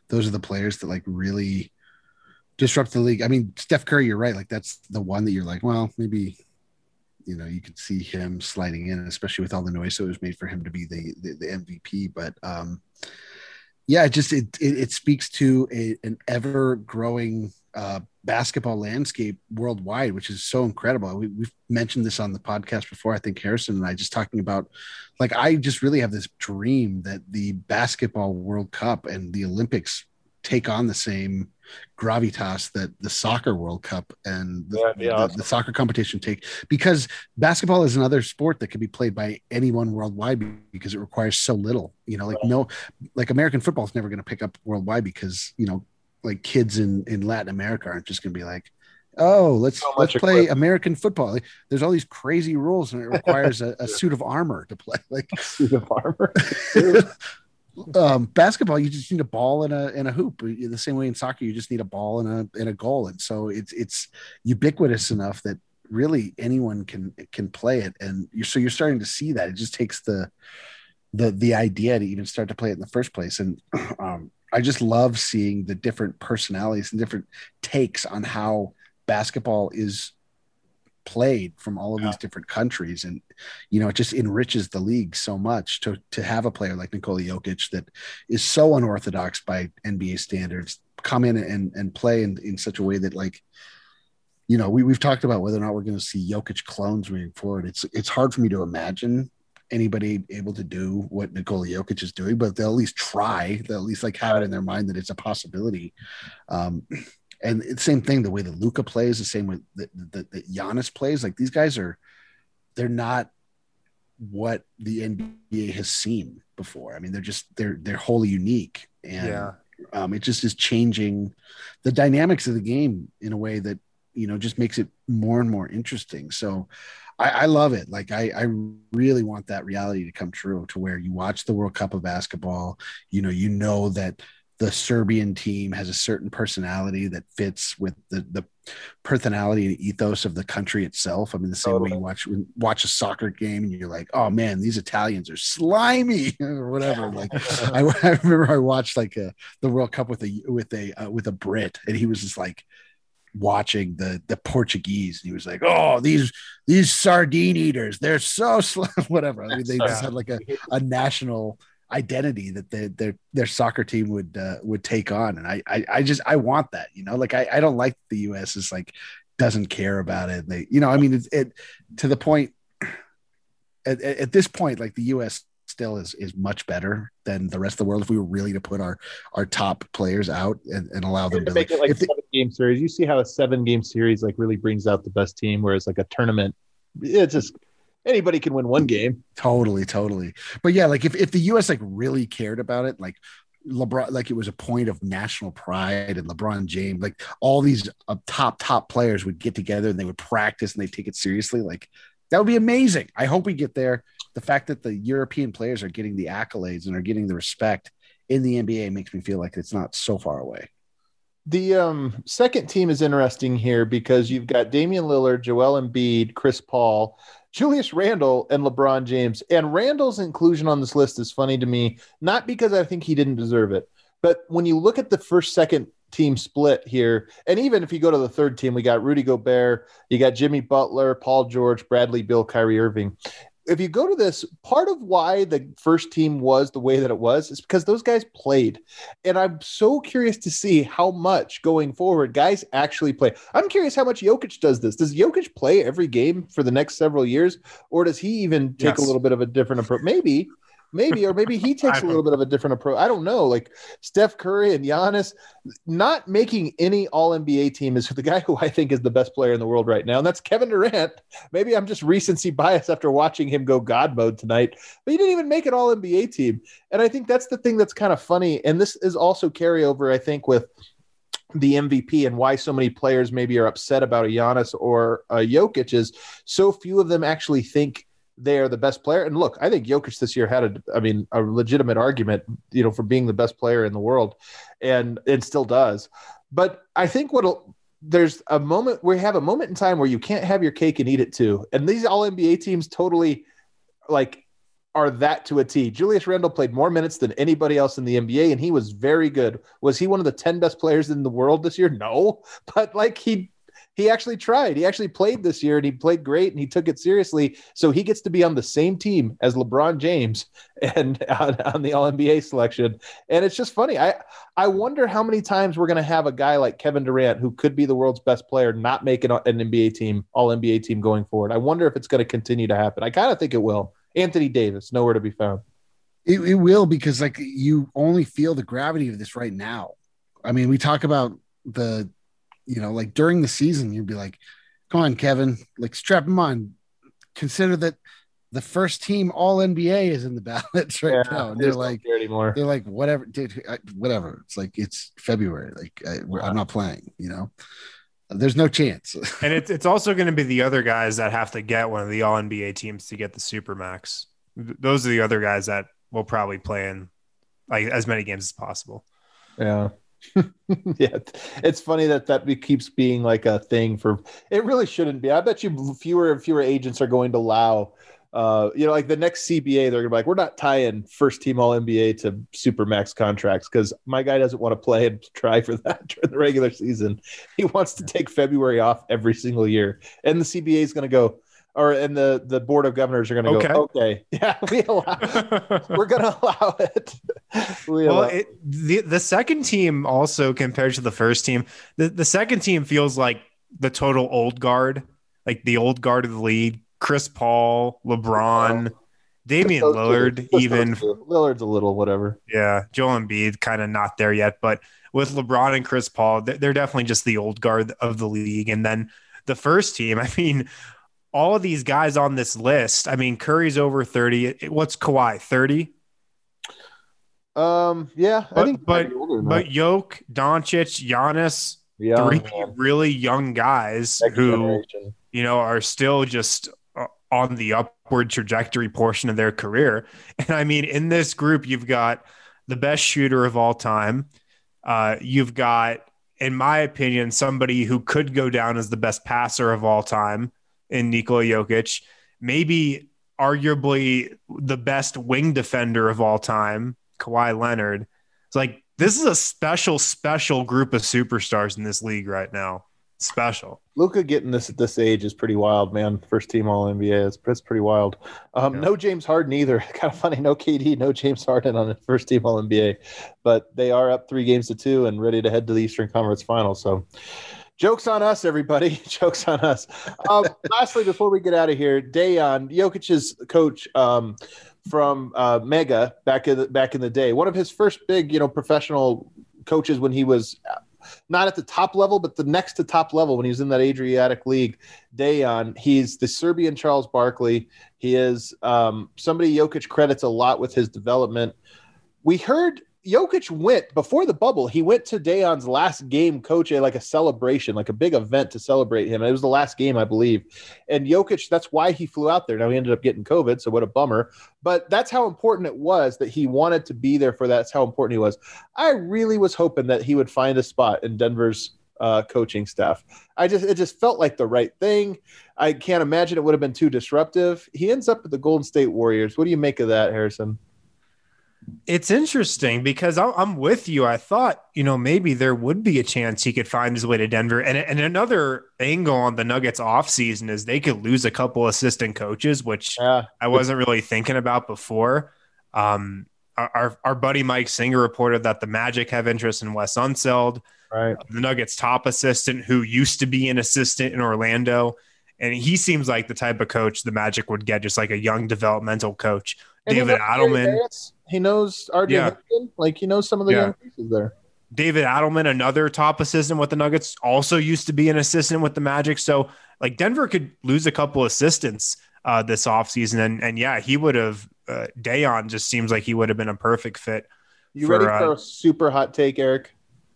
those are the players that like really disrupt the league. I mean, Steph Curry, you're right. Like that's the one that you're like, well, maybe, you know, you could see him sliding in, especially with all the noise that was made for him to be the the, the M V P. But um, yeah, it just it it, it speaks to a, an ever growing uh, basketball landscape worldwide, which is so incredible. We, we've mentioned this on the podcast before. I think Harrison and I just talking about, like, I just really have this dream that the basketball World Cup and the Olympics take on the same gravitas that the soccer World Cup and the, yeah, yeah, the, awesome. the soccer competition take, because basketball is another sport that can be played by anyone worldwide because it requires so little, you know, like right. no, like American football is never going to pick up worldwide because, you know, like kids in, in Latin America aren't just going to be like, oh, let's, so let's play equipment. American football. Like, there's all these crazy rules and it requires a, a suit of armor to play. Like a suit of armor. um, basketball, you just need a ball and a and a hoop. The same way in soccer, you just need a ball and a and a goal. And so it's it's ubiquitous enough that really anyone can can play it. And you're so you're starting to see that. It just takes the the the idea to even start to play it in the first place. And um, I just love seeing the different personalities and different takes on how basketball is played from all of yeah. these different countries. And, you know, it just enriches the league so much to, to have a player like Nikola Jokic that is so unorthodox by N B A standards come in and, and play in, in such a way that, like, you know, we, we've talked about whether or not we're going to see Jokic clones moving forward. It's, it's hard for me to imagine anybody able to do what Nikola Jokic is doing, but they'll at least try. They'll at least like have it in their mind that it's a possibility. Um, And it's the same thing, the way that Luka plays, the same way that, that, that Giannis plays. Like, these guys are, they're not what the N B A has seen before. I mean, they're just, they're, they're wholly unique. And yeah. um, it just is changing the dynamics of the game in a way that, you know, just makes it more and more interesting. So I, I love it. Like, I, I really want that reality to come true, to where you watch the World Cup of basketball, you know, you know that the Serbian team has a certain personality that fits with the, the personality and ethos of the country itself. I mean, the same totally. way you watch, watch a soccer game and you're like, oh man, these Italians are slimy or whatever. Like I, I remember I watched like a, the World Cup with a, with a, uh, with a Brit, and he was just like watching the, the Portuguese. And he was like, oh, these, these sardine eaters, they're so sl-, whatever. I mean, they just had like a, a national identity that the, their their soccer team would uh, would take on. And I, I I just I want that, you know, like I, I don't like the U S is like doesn't care about it. They, you know, I mean, it's it to the point at, at this point, like the U S still is is much better than the rest of the world if we were really to put our our top players out and, and allow them to, to make like, it like a seven they, game series. You see how a seven game series like really brings out the best team, whereas like a tournament, it's just anybody can win one game. Totally, totally. But yeah, like if, if the U S like really cared about it, like LeBron, like it was a point of national pride, and LeBron James, like all these uh, top, top players would get together and they would practice and they take it seriously. Like that would be amazing. I hope we get there. The fact that the European players are getting the accolades and are getting the respect in the N B A makes me feel like it's not so far away. The um, second team is interesting here because you've got Damian Lillard, Joel Embiid, Chris Paul, Julius Randle, and LeBron James. And Randle's inclusion on this list is funny to me, not because I think he didn't deserve it, but when you look at the first, second team split here, and even if you go to the third team, we got Rudy Gobert, you got Jimmy Butler, Paul George, Bradley Beal, Kyrie Irving. If you go to this, part of why the first team was the way that it was is because those guys played. And I'm so curious to see how much going forward guys actually play. I'm curious how much Jokic does this. Does Jokic play every game for the next several years? Or does he even take yes. a little bit of a different approach? Maybe. Maybe, or maybe he takes a little bit of a different approach. I don't know. Like Steph Curry and Giannis not making any all N B A team is the guy who I think is the best player in the world right now. And that's Kevin Durant. Maybe I'm just recency bias after watching him go God mode tonight, but he didn't even make an all N B A team. And I think that's the thing that's kind of funny. And this is also carryover, I think, with the M V P and why so many players maybe are upset about a Giannis or a Jokic is so few of them actually think they are the best player. And look, I think Jokic this year had a, I mean, a legitimate argument, you know, for being the best player in the world, and it still does. But I think what there's a moment where you have a moment in time where you can't have your cake and eat it too. And these all N B A teams totally like are that to a T. Julius Randle played more minutes than anybody else in the N B A, and he was very good. Was he one of the ten best players in the world this year? No, but like he he actually tried. He actually played this year, and he played great, and he took it seriously. So he gets to be on the same team as LeBron James and on, on the All N B A selection. And it's just funny. I I wonder how many times we're going to have a guy like Kevin Durant, who could be the world's best player, not make an, an N B A team, All N B A team going forward. I wonder if it's going to continue to happen. I kind of think it will. Anthony Davis, nowhere to be found. It, it will, because like you only feel the gravity of this right now. I mean, we talk about the, you know, like during the season, you'd be like, come on, Kevin, like strap him on. Consider that the first team All N B A is in the ballots right Yeah, now. And they they're just don't like, care anymore. they're like, whatever, dude, I- whatever. It's like, it's February. Like I, we're, I'm not playing, you know, there's no chance. And it's it's also going to be the other guys that have to get one of the All N B A teams to get the Supermax. Th- Those are the other guys that will probably play in like as many games as possible. Yeah. Yeah. It's funny that that be, keeps being like a thing for, it really shouldn't be. I bet you fewer and fewer agents are going to allow, uh, you know, like the next C B A, they're gonna be like, we're not tying first team All N B A to Supermax contracts because my guy doesn't want to play and try for that during the regular season. He wants to take February off every single year. And the C B A is going to go, or and the, the board of governors are going to Okay. go, okay, yeah, we allow, we're going to allow it. We Well, allow it, the the second team also compared to the first team, the, the second team feels like the total old guard, like the old guard of the league. Chris Paul, LeBron, Damian Those two. Lillard, Just those even two. Lillard's a little whatever. yeah, Joel Embiid kind of not there yet, but with LeBron and Chris Paul, they're they're definitely just the old guard of the league. And then the first team, I mean, all of these guys on this list, I mean, Curry's over thirty. What's Kawhi, thirty? Um, yeah, I But think but maybe older than but that. Jokic, Doncic, Giannis, Yeah, three man. really young guys Next who generation. you know are still just uh, on the upward trajectory portion of their career. And I mean, in this group, you've got the best shooter of all time. Uh, you've got, in my opinion, somebody who could go down as the best passer of all time in Nikola Jokic, maybe arguably the best wing defender of all time, Kawhi Leonard. It's like, this is a special, special group of superstars in this league right now. Special. Luka getting this at this age is pretty wild, man. First team All N B A. It's, it's pretty wild. Um, Yeah. No James Harden either. Kind of funny. No K D, no James Harden on the first team All N B A. But they are up three games to two and ready to head to the Eastern Conference Finals. So joke's on us, everybody. Joke's on us. Um, lastly, before we get out of here, Dejan, Jokic's coach um, from uh, Mega back in the, back in the day, one of his first big, you know, professional coaches when he was not at the top level, but the next to top level when he was in that Adriatic League. Dejan, he's the Serbian Charles Barkley. He is um, somebody Jokic credits a lot with his development. We heard Jokic went before the bubble. He went to Dejan's last game coaching, like a celebration, like a big event to celebrate him. It was the last game, I believe. And Jokic, that's why he flew out there. Now he ended up getting COVID, so what a bummer. But that's how important it was that he wanted to be there for that. That's how important he was. I really was hoping that he would find a spot in Denver's uh, coaching staff. I just it just felt like the right thing. I can't imagine it would have been too disruptive. He ends up with the Golden State Warriors. What do you make of that, Harrison? It's interesting because I'm I'm with you. I thought, you know, maybe there would be a chance he could find his way to Denver. And, and another angle on the Nuggets offseason is they could lose a couple assistant coaches, which Yeah. I wasn't really thinking about before. Um, our, our, our buddy Mike Singer reported that the Magic have interest in Wes Unseld, Right. the Nuggets' top assistant, who used to be an assistant in Orlando. And he seems like the type of coach the Magic would get, just like a young developmental coach. And he David knows Gary Adelman. Vance. He knows R J Yeah. Hampton. Like he knows some of the Yeah. young pieces there. David Adelman, another top assistant with the Nuggets, also used to be an assistant with the Magic. So, like, Denver could lose a couple assistants uh, this offseason. And, and yeah, he would have, uh, Dejan just seems like he would have been a perfect fit. You for, ready uh, for a super hot take, Eric?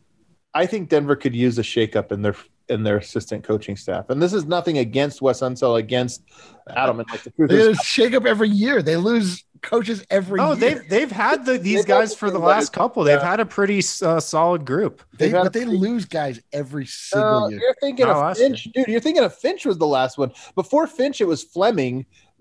I think Denver could use a shakeup in their in their assistant coaching staff. And this is nothing against Wes Unseld, against Adelman. Like the truth They is, shake up every year. They lose coaches every Oh, year. they've they've had the, these They've guys had for the the- last couple. They've yeah. had a pretty uh, solid group. They, they've had but they a- lose guys every single Uh, year. you're thinking Not of last Finch, dude. You're thinking of Finch was the last one. Before Finch, it was Fleming.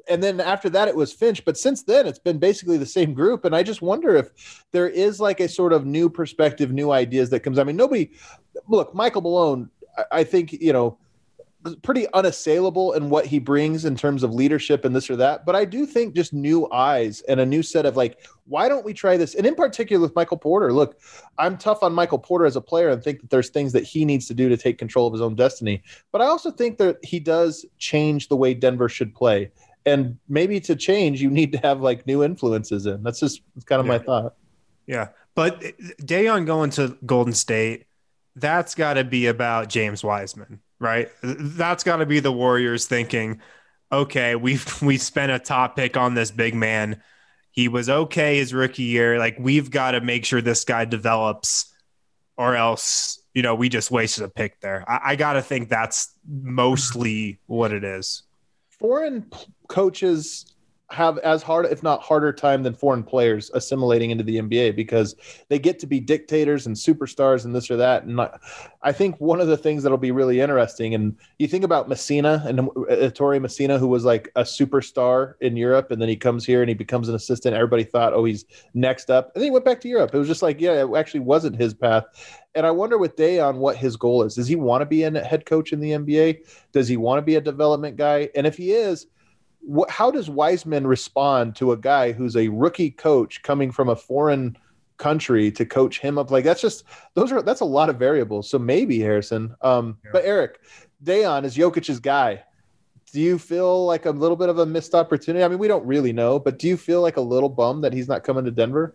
and then after that it was Finch. But since then it's been basically the same group. And I just wonder if there is like a sort of new perspective, new ideas that comes. I mean, nobody look, Michael Malone, I, I think, you know, pretty unassailable in what he brings in terms of leadership and this or that. But I do think just new eyes and a new set of like, why don't we try this? And in particular with Michael Porter, look, I'm tough on Michael Porter as a player and think that there's things that he needs to do to take control of his own destiny. But I also think that he does change the way Denver should play. And maybe to change, you need to have like new influences in. That's just that's kind of yeah. my thought. Yeah. But Dayon going to Golden State, that's got to be about James Wiseman. Right. That's got to be the Warriors thinking, okay, we've we spent a top pick on this big man. He was okay his rookie year. Like, we've got to make sure this guy develops or else, you know, we just wasted a pick there. I, I got to think that's mostly what it is. Foreign p- coaches have as hard, if not harder time than foreign players assimilating into the N B A because they get to be dictators and superstars and this or that. And I think one of the things that'll be really interesting, and you think about Messina and uh, Torrey Messina, who was like a superstar in Europe, and then he comes here and he becomes an assistant. Everybody thought, oh, he's next up. And then he went back to Europe. It was just like, yeah, it actually wasn't his path. And I wonder with Dayon what his goal is. Does he want to be a head coach in the N B A? Does he want to be a development guy? And if he is, What, how does Wiseman respond to a guy who's a rookie coach coming from a foreign country to coach him up? Like, that's just, those are, that's a lot of variables. So maybe Harrison, um, yeah. But Eric, Dayon is Jokic's guy. Do you feel like a little bit of a missed opportunity? I mean, we don't really know, but do you feel like a little bummed that he's not coming to Denver?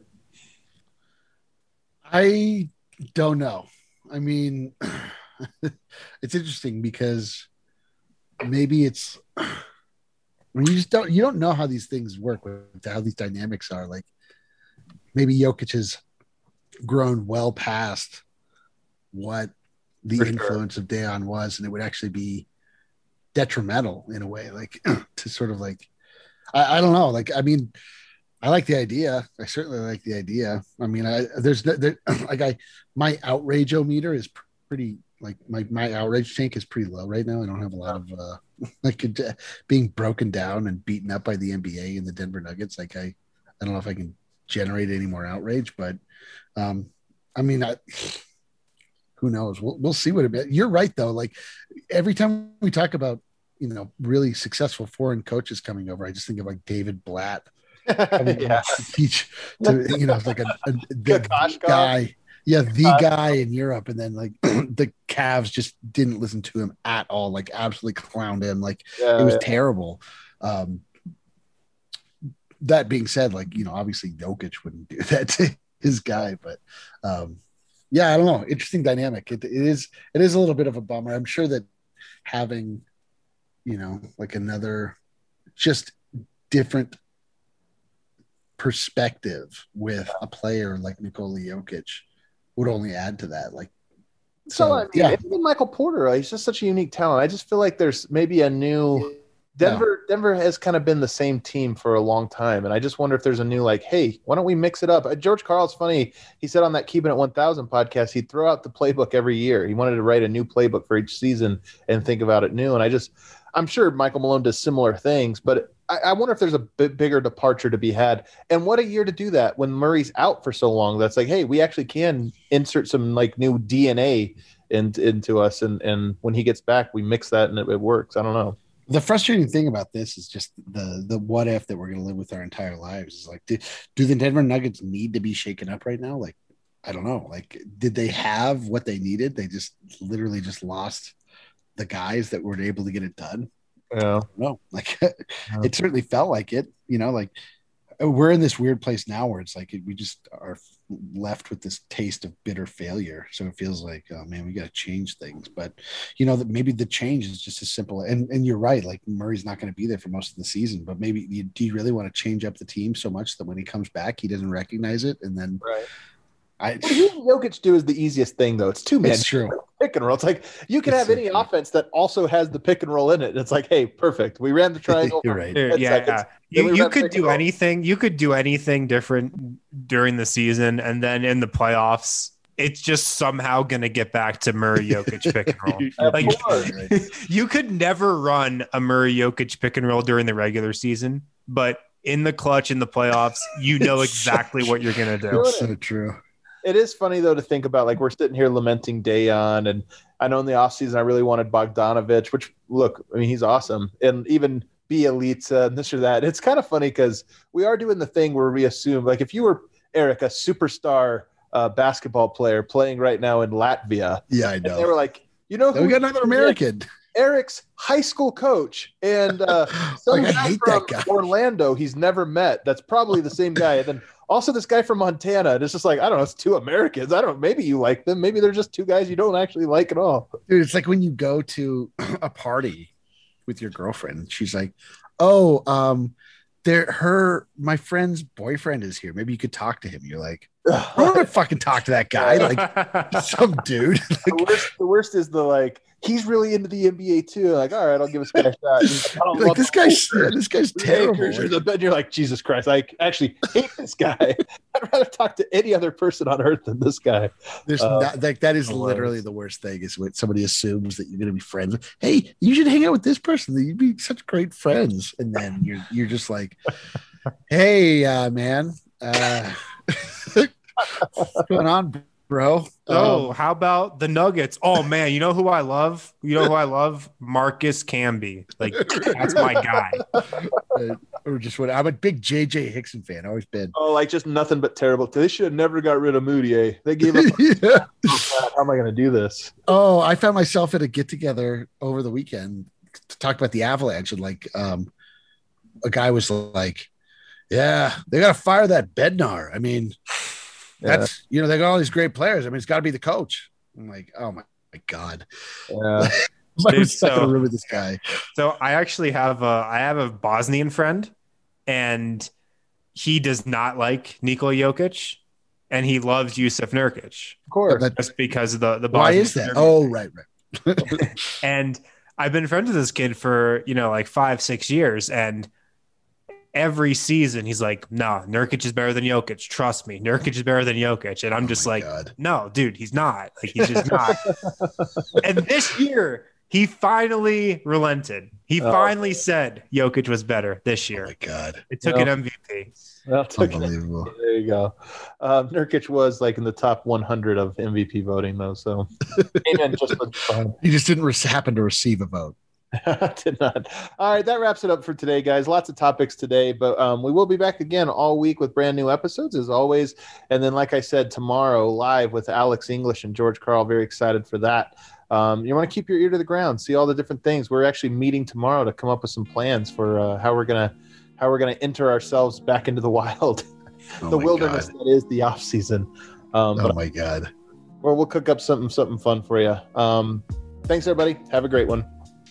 I don't know. I mean, it's interesting because maybe it's, I mean, you just don't you don't know how these things work, with how these dynamics are. Like, maybe Jokic has grown well past what the For influence sure. of Dayon was, and it would actually be detrimental in a way, like to sort of like I, I don't know. Like, I mean, I like the idea. I certainly like the idea. I mean, I there's there, like I my outrage-o-meter is pretty like my my outrage tank is pretty low right now. I don't have a lot of uh like uh, being broken down and beaten up by the N B A and the Denver Nuggets. Like I I don't know if I can generate any more outrage, but um I mean I who knows? We'll we'll see what it. You're right though. Like, every time we talk about, you know, really successful foreign coaches coming over, I just think of like David Blatt. Yeah. Teach to, you know, like a, a the guy. Yeah, the guy in Europe, and then like the Cavs just didn't listen to him at all. Like, absolutely clowned him. Like, yeah, it was yeah. terrible. Um, that being said, like, you know, obviously Jokic wouldn't do that to his guy, but um, yeah, I don't know. Interesting dynamic. It, it is. It is a little bit of a bummer. I'm sure that having, you know, like another just different perspective with a player like Nikola Jokic would only add to that. Like, so, so I mean, yeah, even Michael Porter, he's just such a unique talent. I just feel like there's maybe a new Denver. No. Denver has kind of been the same team for a long time, and I just wonder if there's a new like, hey, why don't we mix it up? Uh, George Karl's funny. He said on that Keeping It one thousand podcast, he'd throw out the playbook every year. He wanted to write a new playbook for each season and think about it new. And I just, I'm sure Michael Malone does similar things, but I, I wonder if there's a bit bigger departure to be had. And what a year to do that when Murray's out for so long. That's like, hey, we actually can insert some like new D N A in, into us. And, and when he gets back, we mix that and it, it works. I don't know. The frustrating thing about this is just the the what if that we're going to live with our entire lives. Is like, do, do the Denver Nuggets need to be shaken up right now? Like, I don't know. Like, did they have what they needed? They just literally just lost the guys that were able to get it done. Yeah. No, like it certainly felt like it, you know, like we're in this weird place now where it's like we just are left with this taste of bitter failure. So it feels like, oh man, we got to change things. But you know, that maybe the change is just as simple. And and you're right, like Murray's not going to be there for most of the season. But maybe you, do you really want to change up the team so much that when he comes back, he doesn't recognize it? And then right. I, what Jokic do is the easiest thing, though. It's two men. It's true. Pick and roll. It's like you can it's have any true. offense that also has the pick and roll in it. And it's like, hey, perfect. We ran the triangle. You're right. Yeah, yeah. You, you could do anything. You could do anything different during the season, and then in the playoffs, it's just somehow going to get back to Murray Jokic pick and roll. Of Like, course. you could never run a Murray Jokic pick and roll during the regular season, but in the clutch in the playoffs, you know exactly what you're going to do. It's so true. It is funny, though, to think about, like, we're sitting here lamenting Dayon, and I know in the offseason I really wanted Bogdanovich, which, look, I mean, he's awesome. And even Bielitsa and this or that. It's kind of funny because we are doing the thing where we assume, like, if you were, Eric, a superstar uh, basketball player playing right now in Latvia. Yeah, I know. They were like, you know, who we got another American. Eric's high school coach and uh, some Like, I guy hate from that guy. Orlando he's never met. That's probably the same guy. And then also this guy from Montana. And it's just like, I don't know, it's two Americans. I don't know. Maybe you like them. Maybe they're just two guys you don't actually like at all. Dude, it's like when you go to a party with your girlfriend. She's like, oh, um, there, her, my friend's boyfriend is here. Maybe you could talk to him. You're like, I don't want to fucking talk to that guy. Like some dude. the, worst, the worst is the like, he's really into the N B A too. Like, all right, I'll give this guy a shot. He's like, I don't Like, love this the guy's Lakers. this guy's The terrible. Lakers are the best. You're like, Jesus Christ, I actually hate this guy. I'd rather talk to any other person on earth than this guy. There's Uh, not like that is hilarious. literally the worst thing is when somebody assumes that you're going to be friends with. Hey, you should hang out with this person. You'd be such great friends, and then you're you're just like, hey, uh, man, uh, what's going on, bro? Oh, Um, how about the Nuggets? Oh man, you know who I love? You know who I love? Marcus Camby. Like, that's my guy. uh, or just what? I'm a big J J Hickson fan. Always been. Oh, like just nothing but terrible. They should have never got rid of Moutier. They gave up. Yeah. How am I going to do this? Oh, I found myself at a get together over the weekend to talk about the Avalanche, and like, um, a guy was like, "Yeah, they got to fire that Bednar." I mean, that's you know they got all these great players. I mean, it's got to be the coach. I'm like, oh my, my god, Yeah. I'm Dude, not so- going to room with this guy. So I actually have a I have a Bosnian friend, and he does not like Nikola Jokic, and he loves Yusuf Nurkic Of course. That- just because of the the why Bosnian is that? Serbian Oh, thing. right, right. And I've been friends with this kid for, you know, like five, six years. And every season he's like, no, Nurkic is better than Jokic. Trust me. Nurkic is better than Jokic. And I'm Oh just my like, God. no, dude, he's not. Like, he's just not. And this year, he finally relented. He Oh. finally said Jokic was better this Oh year. my god, It took No. an M V P. Well, took- unbelievable. there you go. Um, Nurkic was like in the top one hundred of M V P voting, though. So, amen. Just for fun. He just didn't re- happen to receive a vote. Did not. All right, that wraps it up for today, guys. Lots of topics today, but um, we will be back again all week with brand new episodes as always. And then, like I said, tomorrow live with Alex English and George Carl. Very excited for that. Um, you want to keep your ear to the ground, see all the different things. We're actually meeting tomorrow to come up with some plans for uh, how we're gonna how we're gonna enter ourselves back into the wild, Oh the my wilderness God. that is the off season. Um, Oh but my god. or we'll cook up something something fun for you. Um, thanks, everybody. Have a great one.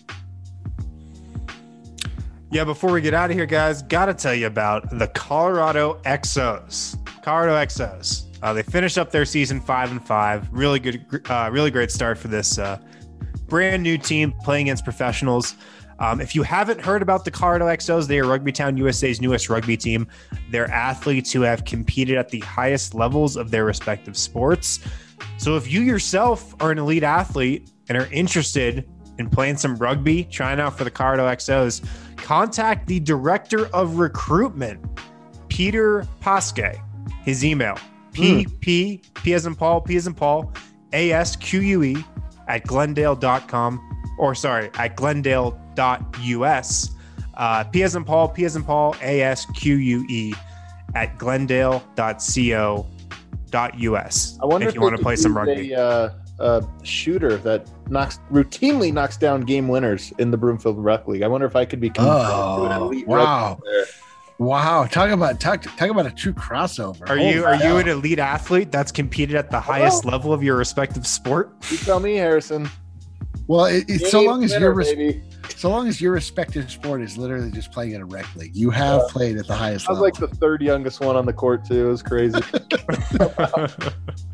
Yeah, before we get out of here, guys, got to tell you about the Colorado X Os. Colorado X Os. Uh, they finished up their season five and five. Really good, uh, really great start for this uh, brand new team playing against professionals. Um, if you haven't heard about the Colorado X Os, they are Rugby Town U S A's newest rugby team. They're athletes who have competed at the highest levels of their respective sports. So if you yourself are an elite athlete and are interested in playing some rugby, trying out for the Colorado X Os, contact the director of recruitment, Peter Pasque. His email, P P P as in Paul, P as in Paul, A S Q U E at glendale dot com, or sorry, at glendale dot U S. Uh, P as in Paul, P as in Paul, A S Q U E at glendale dot co dot U S. I wonder if you want to they play could some use rugby. A, uh, a shooter that knocks routinely knocks down game winners in the Broomfield Rec League. I wonder if I could become Oh, an elite wow. rugby player. Wow. Talk about talk talk about a true crossover. Are Oh you my are you God. an elite athlete that's competed at the highest level of your respective sport? You tell me, Harrison. Well, it, it's so Game long as winner, your res- baby. so long as your respective sport is literally just playing in a rec league, you have Yeah. played at the highest I was level. like the third youngest one on the court too. It was crazy.